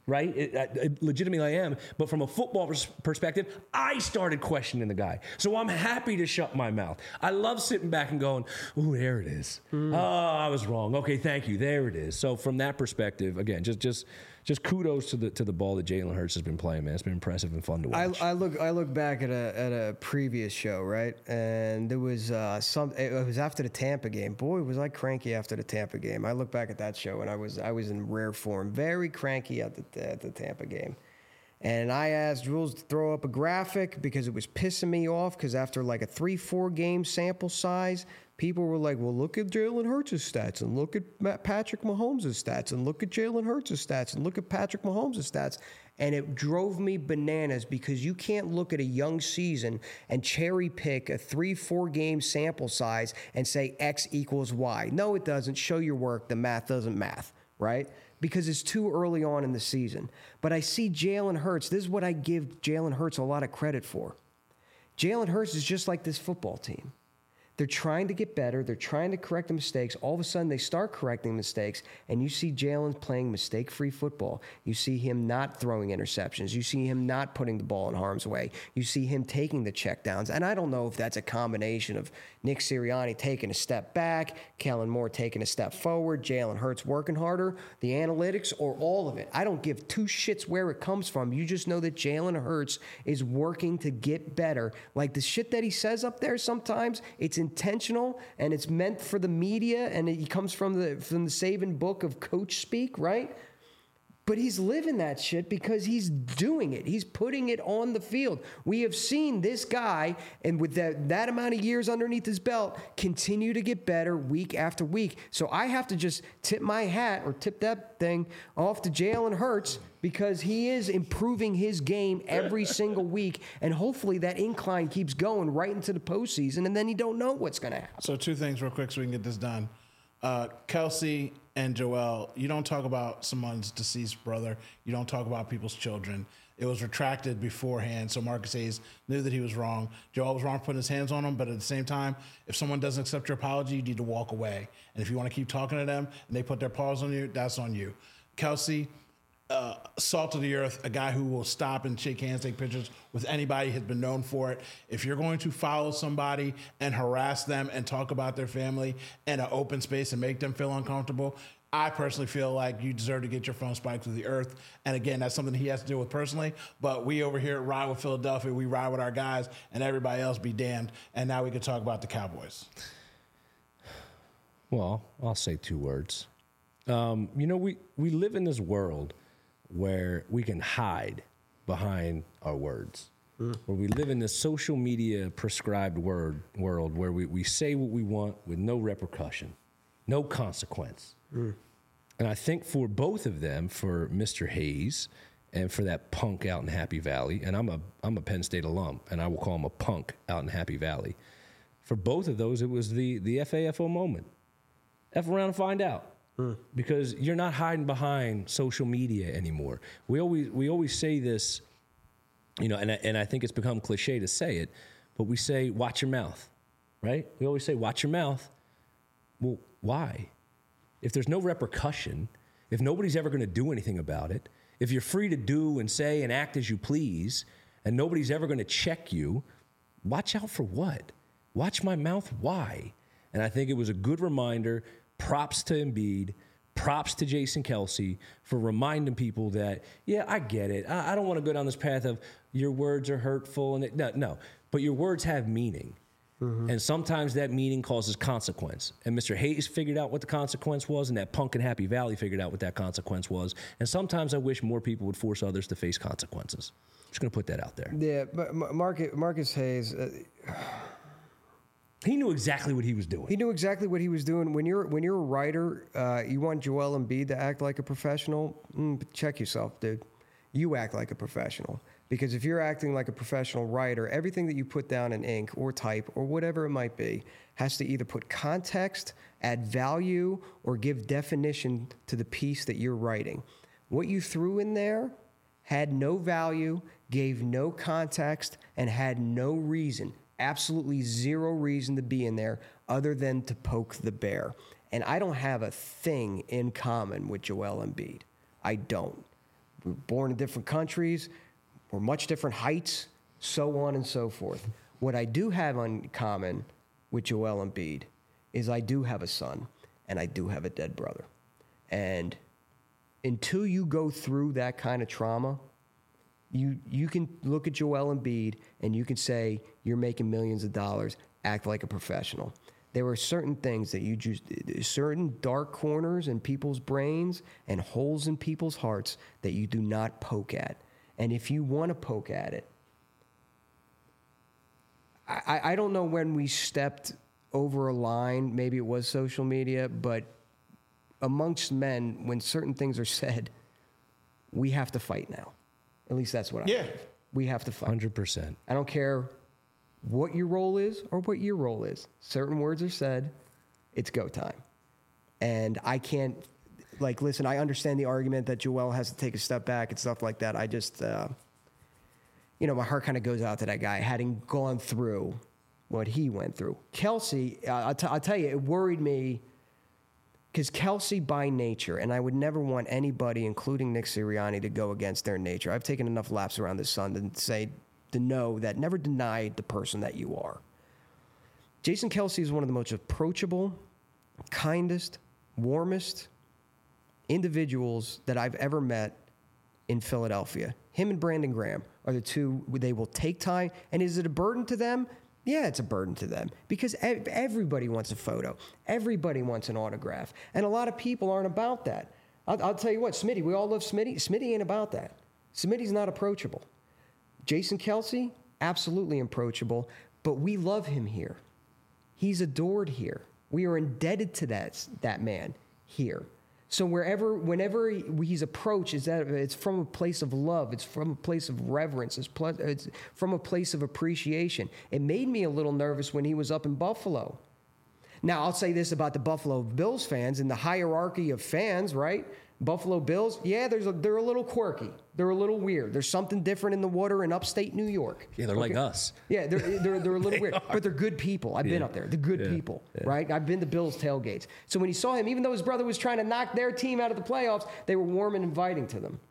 B: right? It, it, legitimately, I am. But from a football pers- perspective, I started questioning the guy. So I'm happy to shut my mouth. I love sitting back and going, "Ooh, there it is. Mm. Oh, I was wrong. Okay, thank you. There it is." So from that perspective, again, just just just kudos to the to the ball that Jalen Hurts has been playing, man. It's been impressive and fun to watch.
A: I, I look I look back at a at a previous show, right, and there was uh, some. It was after the Tampa game. Boy, was I cranky after the Tampa game. I look back at that show and I was I was in rare form, very cranky at the at the Tampa game. And I asked Jules to throw up a graphic because it was pissing me off because after like a three, four game sample size, people were like, well, look at Jalen Hurts' stats and look at Patrick Mahomes' stats and look at Jalen Hurts' stats and look at Patrick Mahomes' stats. And it drove me bananas because you can't look at a young season and cherry pick a three, four game sample size and say X equals Y. No, it doesn't. Show your work. The math doesn't math, right? Because it's too early on in the season. But I see Jalen Hurts. This is what I give Jalen Hurts a lot of credit for. Jalen Hurts is just like this football team. They're trying to get better. They're trying to correct the mistakes. All of a sudden, they start correcting mistakes, and you see Jalen playing mistake-free football. You see him not throwing interceptions. You see him not putting the ball in harm's way. You see him taking the checkdowns. And I don't know if that's a combination of Nick Sirianni taking a step back, Kellen Moore taking a step forward, Jalen Hurts working harder, the analytics, or all of it. I don't give two shits where it comes from. You just know that Jalen Hurts is working to get better. Like the shit that he says up there sometimes, it's intentional and it's meant for the media, and it comes from the from the Saban book of coach speak, right? But he's living that shit because he's doing it. He's putting it on the field. We have seen this guy, and with that, that amount of years underneath his belt, continue to get better week after week. So I have to just tip my hat or tip that thing off to Jalen Hurts because he is improving his game every single week, and hopefully that incline keeps going right into the postseason, and then you don't know what's going to happen.
C: So two things real quick so we can get this done. Uh, Kelsey and Joel, you don't talk about someone's deceased brother. You don't talk about people's children. It was retracted beforehand, so Marcus Hayes knew that he was wrong. Joel was wrong for putting his hands on him, but at the same time, if someone doesn't accept your apology, you need to walk away. And if you want to keep talking to them and they put their paws on you, that's on you. Kelsey, Uh, salt of the earth, a guy who will stop and shake hands, take pictures with anybody, has been known for it. If you're going to follow somebody and harass them and talk about their family in an open space and make them feel uncomfortable, I personally feel like you deserve to get your phone spiked to the earth. And again, that's something he has to deal with personally. But we over here at Ride with Philadelphia, we ride with our guys, and everybody else be damned. And now we can talk about the Cowboys.
B: Well, I'll say two words. Um, you know, we, we live in this world where we can hide behind our words, mm. where we live in this social media prescribed word world where we, we say what we want with no repercussion, no consequence. Mm. And I think for both of them, for Mister Hayes and for that punk out in Happy Valley, and I'm a I'm a Penn State alum, and I will call him a punk out in Happy Valley. For both of those, it was the the F A F O moment. F around and find out. Because you're not hiding behind social media anymore. We always we always say this, you know, and I, and I think it's become cliche to say it, but we say, watch your mouth, right? We always say, watch your mouth. Well, why? If there's no repercussion, if nobody's ever going to do anything about it, if you're free to do and say and act as you please, and nobody's ever going to check you, watch out for what? Watch my mouth, why? And I think it was a good reminder. Props to Embiid, props to Jason Kelsey for reminding people that, yeah, I get it. I, I don't want to go down this path of your words are hurtful. and it, No, no, but your words have meaning. Mm-hmm. And sometimes that meaning causes consequence. And Mister Hayes figured out what the consequence was, and that punk in Happy Valley figured out what that consequence was. And sometimes I wish more people would force others to face consequences. Just going to put that out there.
A: Yeah, but Marcus, Marcus Hayes... Uh,
B: He knew exactly what he was doing.
A: He knew exactly what he was doing. When you're when you're a writer, uh, you want Joel Embiid to act like a professional. Mm, check yourself, dude. You act like a professional, because if you're acting like a professional writer, everything that you put down in ink or type or whatever it might be has to either put context, add value, or give definition to the piece that you're writing. What you threw in there had no value, gave no context, and had no reason. Absolutely zero reason to be in there other than to poke the bear. And I don't have a thing in common with Joel Embiid. I don't. we're born in different countries. We're much different heights, so on and so forth. What I do have in common with Joel Embiid is I do have a son and I do have a dead brother. And until you go through that kind of trauma, you you can look at Joel Embiid and you can say you're making millions of dollars, act like a professional. There are certain things that you just, certain dark corners in people's brains and holes in people's hearts that you do not poke at. And if you want to poke at it, I, I don't know when we stepped over a line, maybe it was social media, but amongst men, when certain things are said, we have to fight now. At least that's what I
C: Yeah.
A: think. We have to fight.
B: one hundred percent.
A: I don't care what your role is or what your role is. Certain words are said, it's go time. And I can't, like, listen, I understand the argument that Joel has to take a step back and stuff like that. I just, uh, you know, my heart kind of goes out to that guy, having gone through what he went through. Kelsey, uh, I'll, t- I'll tell you, it worried me because Kelsey by nature, and I would never want anybody, including Nick Sirianni, to go against their nature. I've taken enough laps around the sun to say, to know that never deny the person that you are. Jason Kelsey is one of the most approachable, kindest, warmest individuals that I've ever met in Philadelphia. Him and Brandon Graham are the two, they will take time. And is it a burden to them? Yeah, it's a burden to them because ev- everybody wants a photo. Everybody wants an autograph. And a lot of people aren't about that. I'll, I'll tell you what, Smitty, we all love Smitty. Smitty ain't about that. Smitty's not approachable. Jason Kelsey, absolutely approachable, but we love him here. He's adored here. We are indebted to that, that man here. So wherever, whenever he, he's approached, is that it's from a place of love. It's from a place of reverence. It's, pl- it's from a place of appreciation. It made me a little nervous when he was up in Buffalo. Now, I'll say this about the Buffalo Bills fans in the hierarchy of fans, right? Buffalo Bills, yeah, there's a, they're a little quirky. They're a little weird. There's something different in the water in upstate New York.
B: Yeah, they're okay. like us.
A: Yeah, they're, they're, they're a little weird,
B: are.
A: but they're good people. I've
B: yeah.
A: been up there. They're good
B: yeah.
A: people,
B: yeah.
A: right? I've been to Bills tailgates. So when he saw him, even though his brother was trying to knock their team out of the playoffs, they were warm and inviting to them.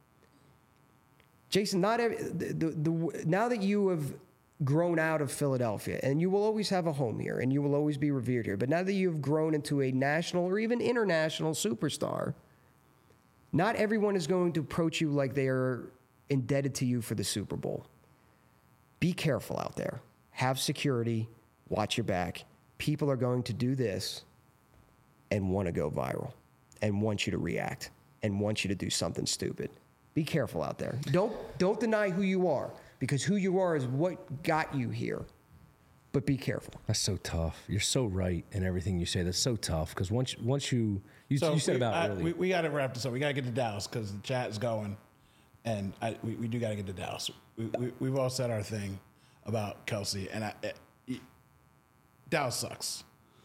A: Jason, not every, the, the, the, now that you have grown out of Philadelphia, and you will always have a home here, and you will always be revered here, but now that you've grown into a national or even international superstar, not everyone is going to approach you like they are indebted to you for the Super Bowl. Be careful out there. Have security. Watch your back. People are going to do this and want to go viral and want you to react and want you to do something stupid. Be careful out there. Don't, don't deny who you are because who you are is what got you here. But be careful.
B: That's so tough. You're so right in everything you say. That's so tough because once once you you,
C: so
B: you said
C: we,
B: about
C: I,
B: earlier.
C: we, we got to wrap this up. We got to get to Dallas because the chat is going, and I, we, we do got to get to Dallas. We, we we've all said our thing about Kelsey, and I, it, Dallas sucks.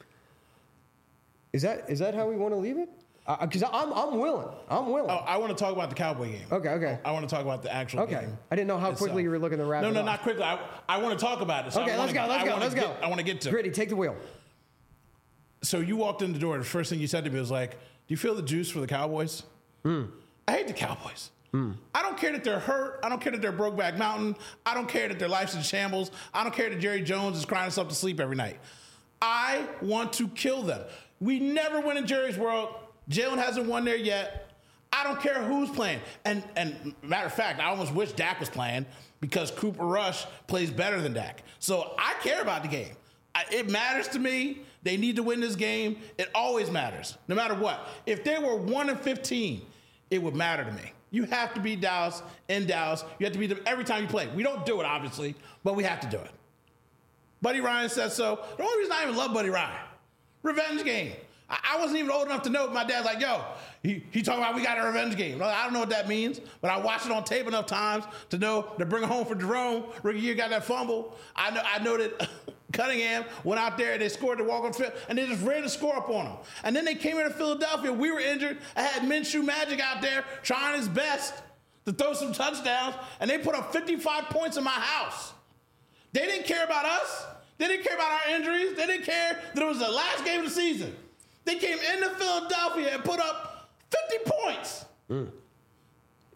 A: Is that is that how we want to leave it? Because uh, I'm I'm willing. I'm willing.
C: Oh, I want to talk about the Cowboy game.
A: Okay, okay.
C: I want to talk about the actual
A: Okay.
C: game.
A: I didn't know how quickly
C: itself.
A: you were looking to wrap
C: no,
A: it
C: no,
A: up.
C: not quickly. I, I want to talk about it. So
A: Okay,
C: I
A: let's
C: wanna,
A: go, let's
C: I
A: go,
C: wanna
A: let's
C: get,
A: go.
C: I want to get to it.
A: Gritty, take the wheel.
C: So you walked in the door. The first thing you said to me was like, "Do you feel the juice for the Cowboys?"
A: Mm.
C: I hate the Cowboys. Mm. I don't care that they're hurt. I don't care that they're Brokeback Mountain. I don't care that their life's in shambles. I don't care that Jerry Jones is crying himself to sleep every night. I want to kill them. We never win in Jerry's world. Jalen hasn't won there yet. I don't care who's playing. And and matter of fact, I almost wish Dak was playing because Cooper Rush plays better than Dak. So I care about the game. I, it matters to me. They need to win this game. It always matters, no matter what. If they were one and fifteen, it would matter to me. You have to beat Dallas in Dallas. You have to beat them every time you play. We don't do it, obviously, but we have to do it. Buddy Ryan says so. The only reason I even love Buddy Ryan, revenge game. I wasn't even old enough to know. My dad's like, yo, he, he talking about we got a revenge game. I don't know what that means, but I watched it on tape enough times to know to bring it home for Jerome. Rookie year got that fumble. I know I know that Cunningham went out there and they scored the walk-on field, and they just ran the score up on them. And then they came into Philadelphia. We were injured. I had Minshew Magic out there trying his best to throw some touchdowns, and they put up fifty-five points in my house. They didn't care about us. They didn't care about our injuries. They didn't care that it was the last game of the season. They came into Philadelphia and put up fifty points. Mm.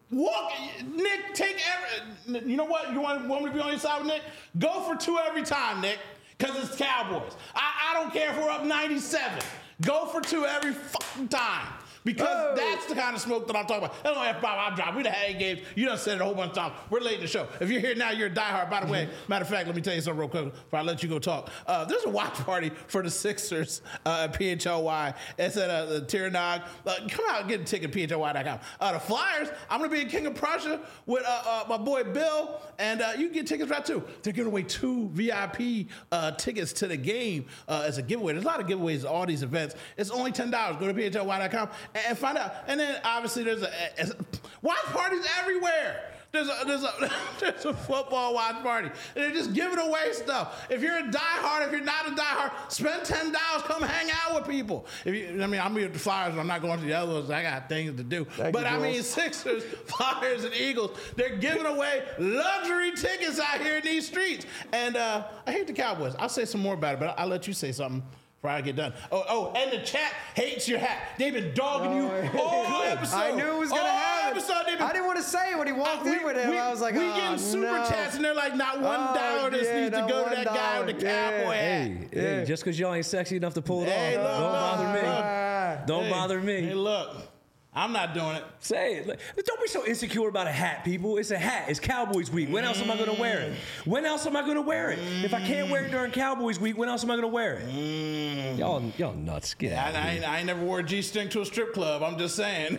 C: Walk, Nick. Take every. You know what? You want, want me to be on your side with Nick? Go for two every time, Nick. Because it's Cowboys. I, I don't care if we're up ninety-seven. Go for two every fucking time. Because oh. that's the kind of smoke that I'm talking about. That's only F five I drop. We done had eight games. You done said it a whole bunch of times. We're late in the show. If you're here now, you're a diehard. By the way, matter of fact, let me tell you something real quick before I let you go talk. Uh, there's a watch party for the Sixers uh, at P H L Y. It's at uh, the Tirnag. Uh, come out and get a ticket at P H L Y dot com. Uh, the Flyers, I'm going to be in King of Prussia with uh, uh, my boy Bill, and uh, you can get tickets right too. They're giving away two V I P uh, tickets to the game uh, as a giveaway. There's a lot of giveaways at all these events. It's only ten dollars. Go to P H L Y dot com and, and find out. And then obviously there's a, a, a watch parties everywhere. There's a there's a there's a football watch party. And they're just giving away stuff. If you're a diehard, if you're not a diehard, spend ten dollars. Come hang out with people. If you, I mean, I'm here at the Flyers. I'm not going to the other ones. I got things to do. Thank but you, I mean, Sixers, Flyers, and Eagles. They're giving away luxury tickets out here in these streets. And uh, I hate the Cowboys. I'll say some more about it, but I'll, I'll let you say something before I get done. Oh, oh, and the chat hates your hat. They've been dogging you all episode.
A: I knew it was going to happen.
C: Episode, been,
A: I didn't want to say it when he walked
C: uh,
A: in
C: we,
A: with him.
C: We,
A: I was like,
C: we
A: oh,
C: getting super
A: no.
C: chats, and they're like, not one
A: oh,
C: dollar this
A: yeah,
C: needs to go to that guy with the
A: yeah.
C: cowboy hat.
B: Hey, hey,
A: Yeah.
B: just because y'all ain't sexy enough to pull it
C: Hey,
B: off,
C: look,
B: don't
C: look,
B: bother me.
C: look.
B: Don't
C: Hey,
B: bother me.
C: Hey, look. I'm not doing it.
B: Say it. Like, don't be so insecure about a hat, people. It's a hat. It's Cowboys week. When else am I going to wear it? When else am I going to wear it? If I can't wear it during Cowboys week, when else am I going to wear it? Mm. Y'all, y'all nuts. Get out
C: I,
B: of
C: I,
B: here.
C: I ain't never wore a G-string to a strip club. I'm just saying.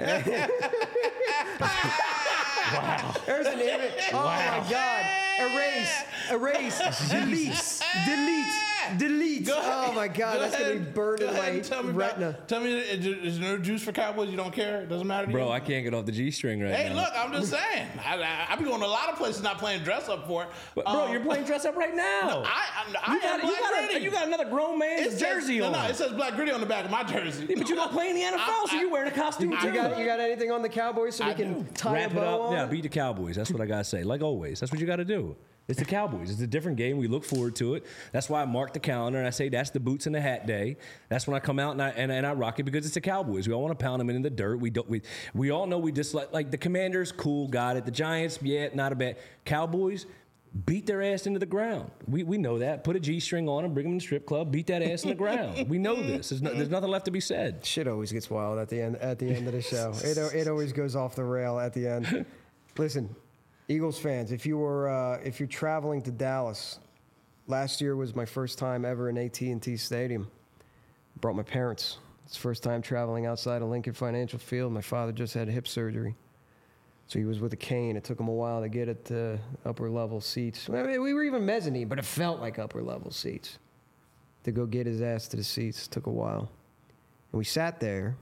B: Wow.
A: There's an image. Oh
B: Wow.
A: my God. Erase. Erase. Delete. Delete. Delete.
C: Go ahead.
A: Oh my God.
C: Go
A: That's going to be
C: ahead.
A: burned
C: Go
A: in
C: ahead
A: my
C: and tell me
A: retina.
C: About, tell me, is there, is there no juice for Cowboys? You don't care? It doesn't matter to you?
B: Bro, I can't get off the G-string right
C: Hey,
B: now.
C: look, I'm just saying. I, I, I be going to a lot of places not playing dress up for it.
B: But, bro,
C: Um,
B: you're playing dress up right now.
C: No, I, I, I
B: you, got,
C: am
B: you,
C: Black
B: got a,
C: Gritty.
B: you got another grown man's
C: It says-
B: jersey
C: no,
B: on.
C: No, it says Black Gritty on the back of my jersey.
B: Yeah, but you don't play in the N F L,
C: I-
B: so you're wearing a costume
C: I-
B: too.
A: You got, you got anything on the Cowboys so we
C: I
A: can
C: do.
A: tie
B: Wrap
A: a
B: it
A: bow
B: up.
A: on?
B: Yeah, beat the Cowboys. That's what I gotta say. Like always, that's what you gotta do. It's the Cowboys. It's a different game. We look forward to it. That's why I mark the calendar and I say that's the boots and the hat day. That's when I come out and I and, and I rock it because it's the Cowboys. We all want to pound them in the dirt. We don't. We we all know we dislike like the Commanders. Cool, got it. The Giants, yeah, not a bad. Cowboys. Beat their ass into the ground. We we know that. Put a G-string on them, bring them to the strip club, beat that ass in the ground. We know this. There's, no, there's nothing left to be said.
A: Shit always gets wild at the end at the end of the show. It it always goes off the rail at the end. Listen, Eagles fans, if you were uh, if you're traveling to Dallas, last year was my first time ever in A T and T Stadium. Brought my parents. It's the first time traveling outside of Lincoln Financial Field. My father just had hip surgery. So he was with a cane. It took him a while to get it to upper level seats. I mean, we were even mezzanine, but it felt like upper level seats. To go get his ass to the seats took a while. And we sat there,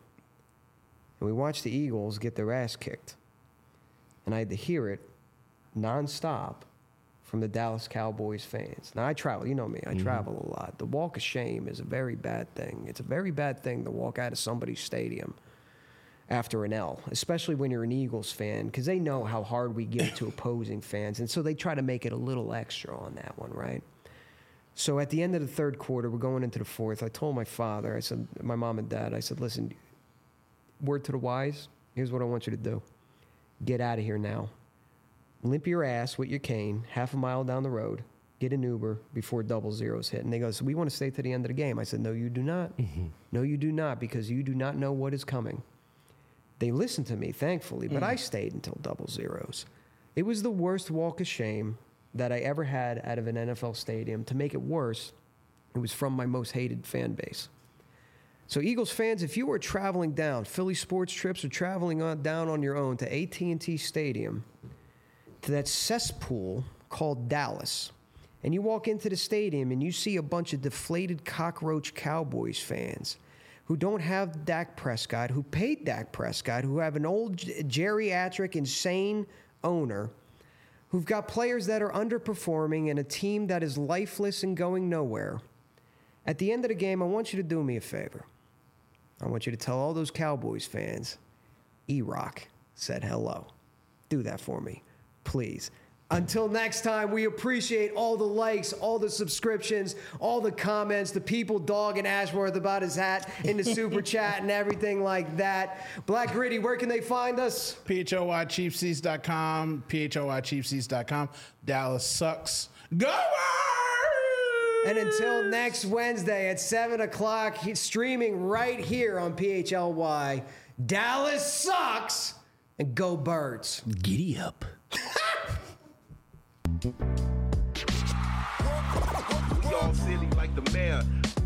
A: and we watched the Eagles get their ass kicked. And I had to hear it nonstop from the Dallas Cowboys fans. Now, I travel. You know me. I mm-hmm. travel a lot. The walk of shame is a very bad thing. It's a very bad thing to walk out of somebody's stadium after an L, especially when you're an Eagles fan, because they know how hard we give to opposing fans, and so they try to make it a little extra on that one, right? So at the end of the third quarter, we're going into the fourth, I told my father, I said, my mom and dad, I said, listen, word to the wise, here's what I want you to do. Get out of here now. Limp your ass with your cane half a mile down the road, get an Uber before double zeros hit. And they go, so we want to stay to the end of the game. I said, no, you do not. Mm-hmm. No, you do not, because you do not know what is coming. They listened to me, thankfully, but mm. I stayed until double zeros. It was the worst walk of shame that I ever had out of an N F L stadium. To make it worse, it was from my most hated fan base. So Eagles fans, if you are traveling down, Philly sports trips or traveling on, down on your own to A T and T Stadium, to that cesspool called Dallas, and you walk into the stadium and you see a bunch of deflated cockroach Cowboys fans who don't have Dak Prescott, who paid Dak Prescott, who have an old geriatric, insane owner, who've got players that are underperforming and a team that is lifeless and going nowhere. At the end of the game, I want you to do me a favor. I want you to tell all those Cowboys fans, E-Rock said hello. Do that for me, please. Until next time, we appreciate all the likes, all the subscriptions, all the comments, the people dogging Ashworth about his hat in the super chat and everything like that. Black Gritty, where can they find us?
C: P H O Y Chief Seats dot com, P H O Y Chief Seats dot com. Dallas sucks. Go Birds!
A: And until next Wednesday at seven o'clock, he's streaming right here on P H L Y. Dallas sucks, and go Birds.
B: Giddy up.
D: We all silly like the mayor.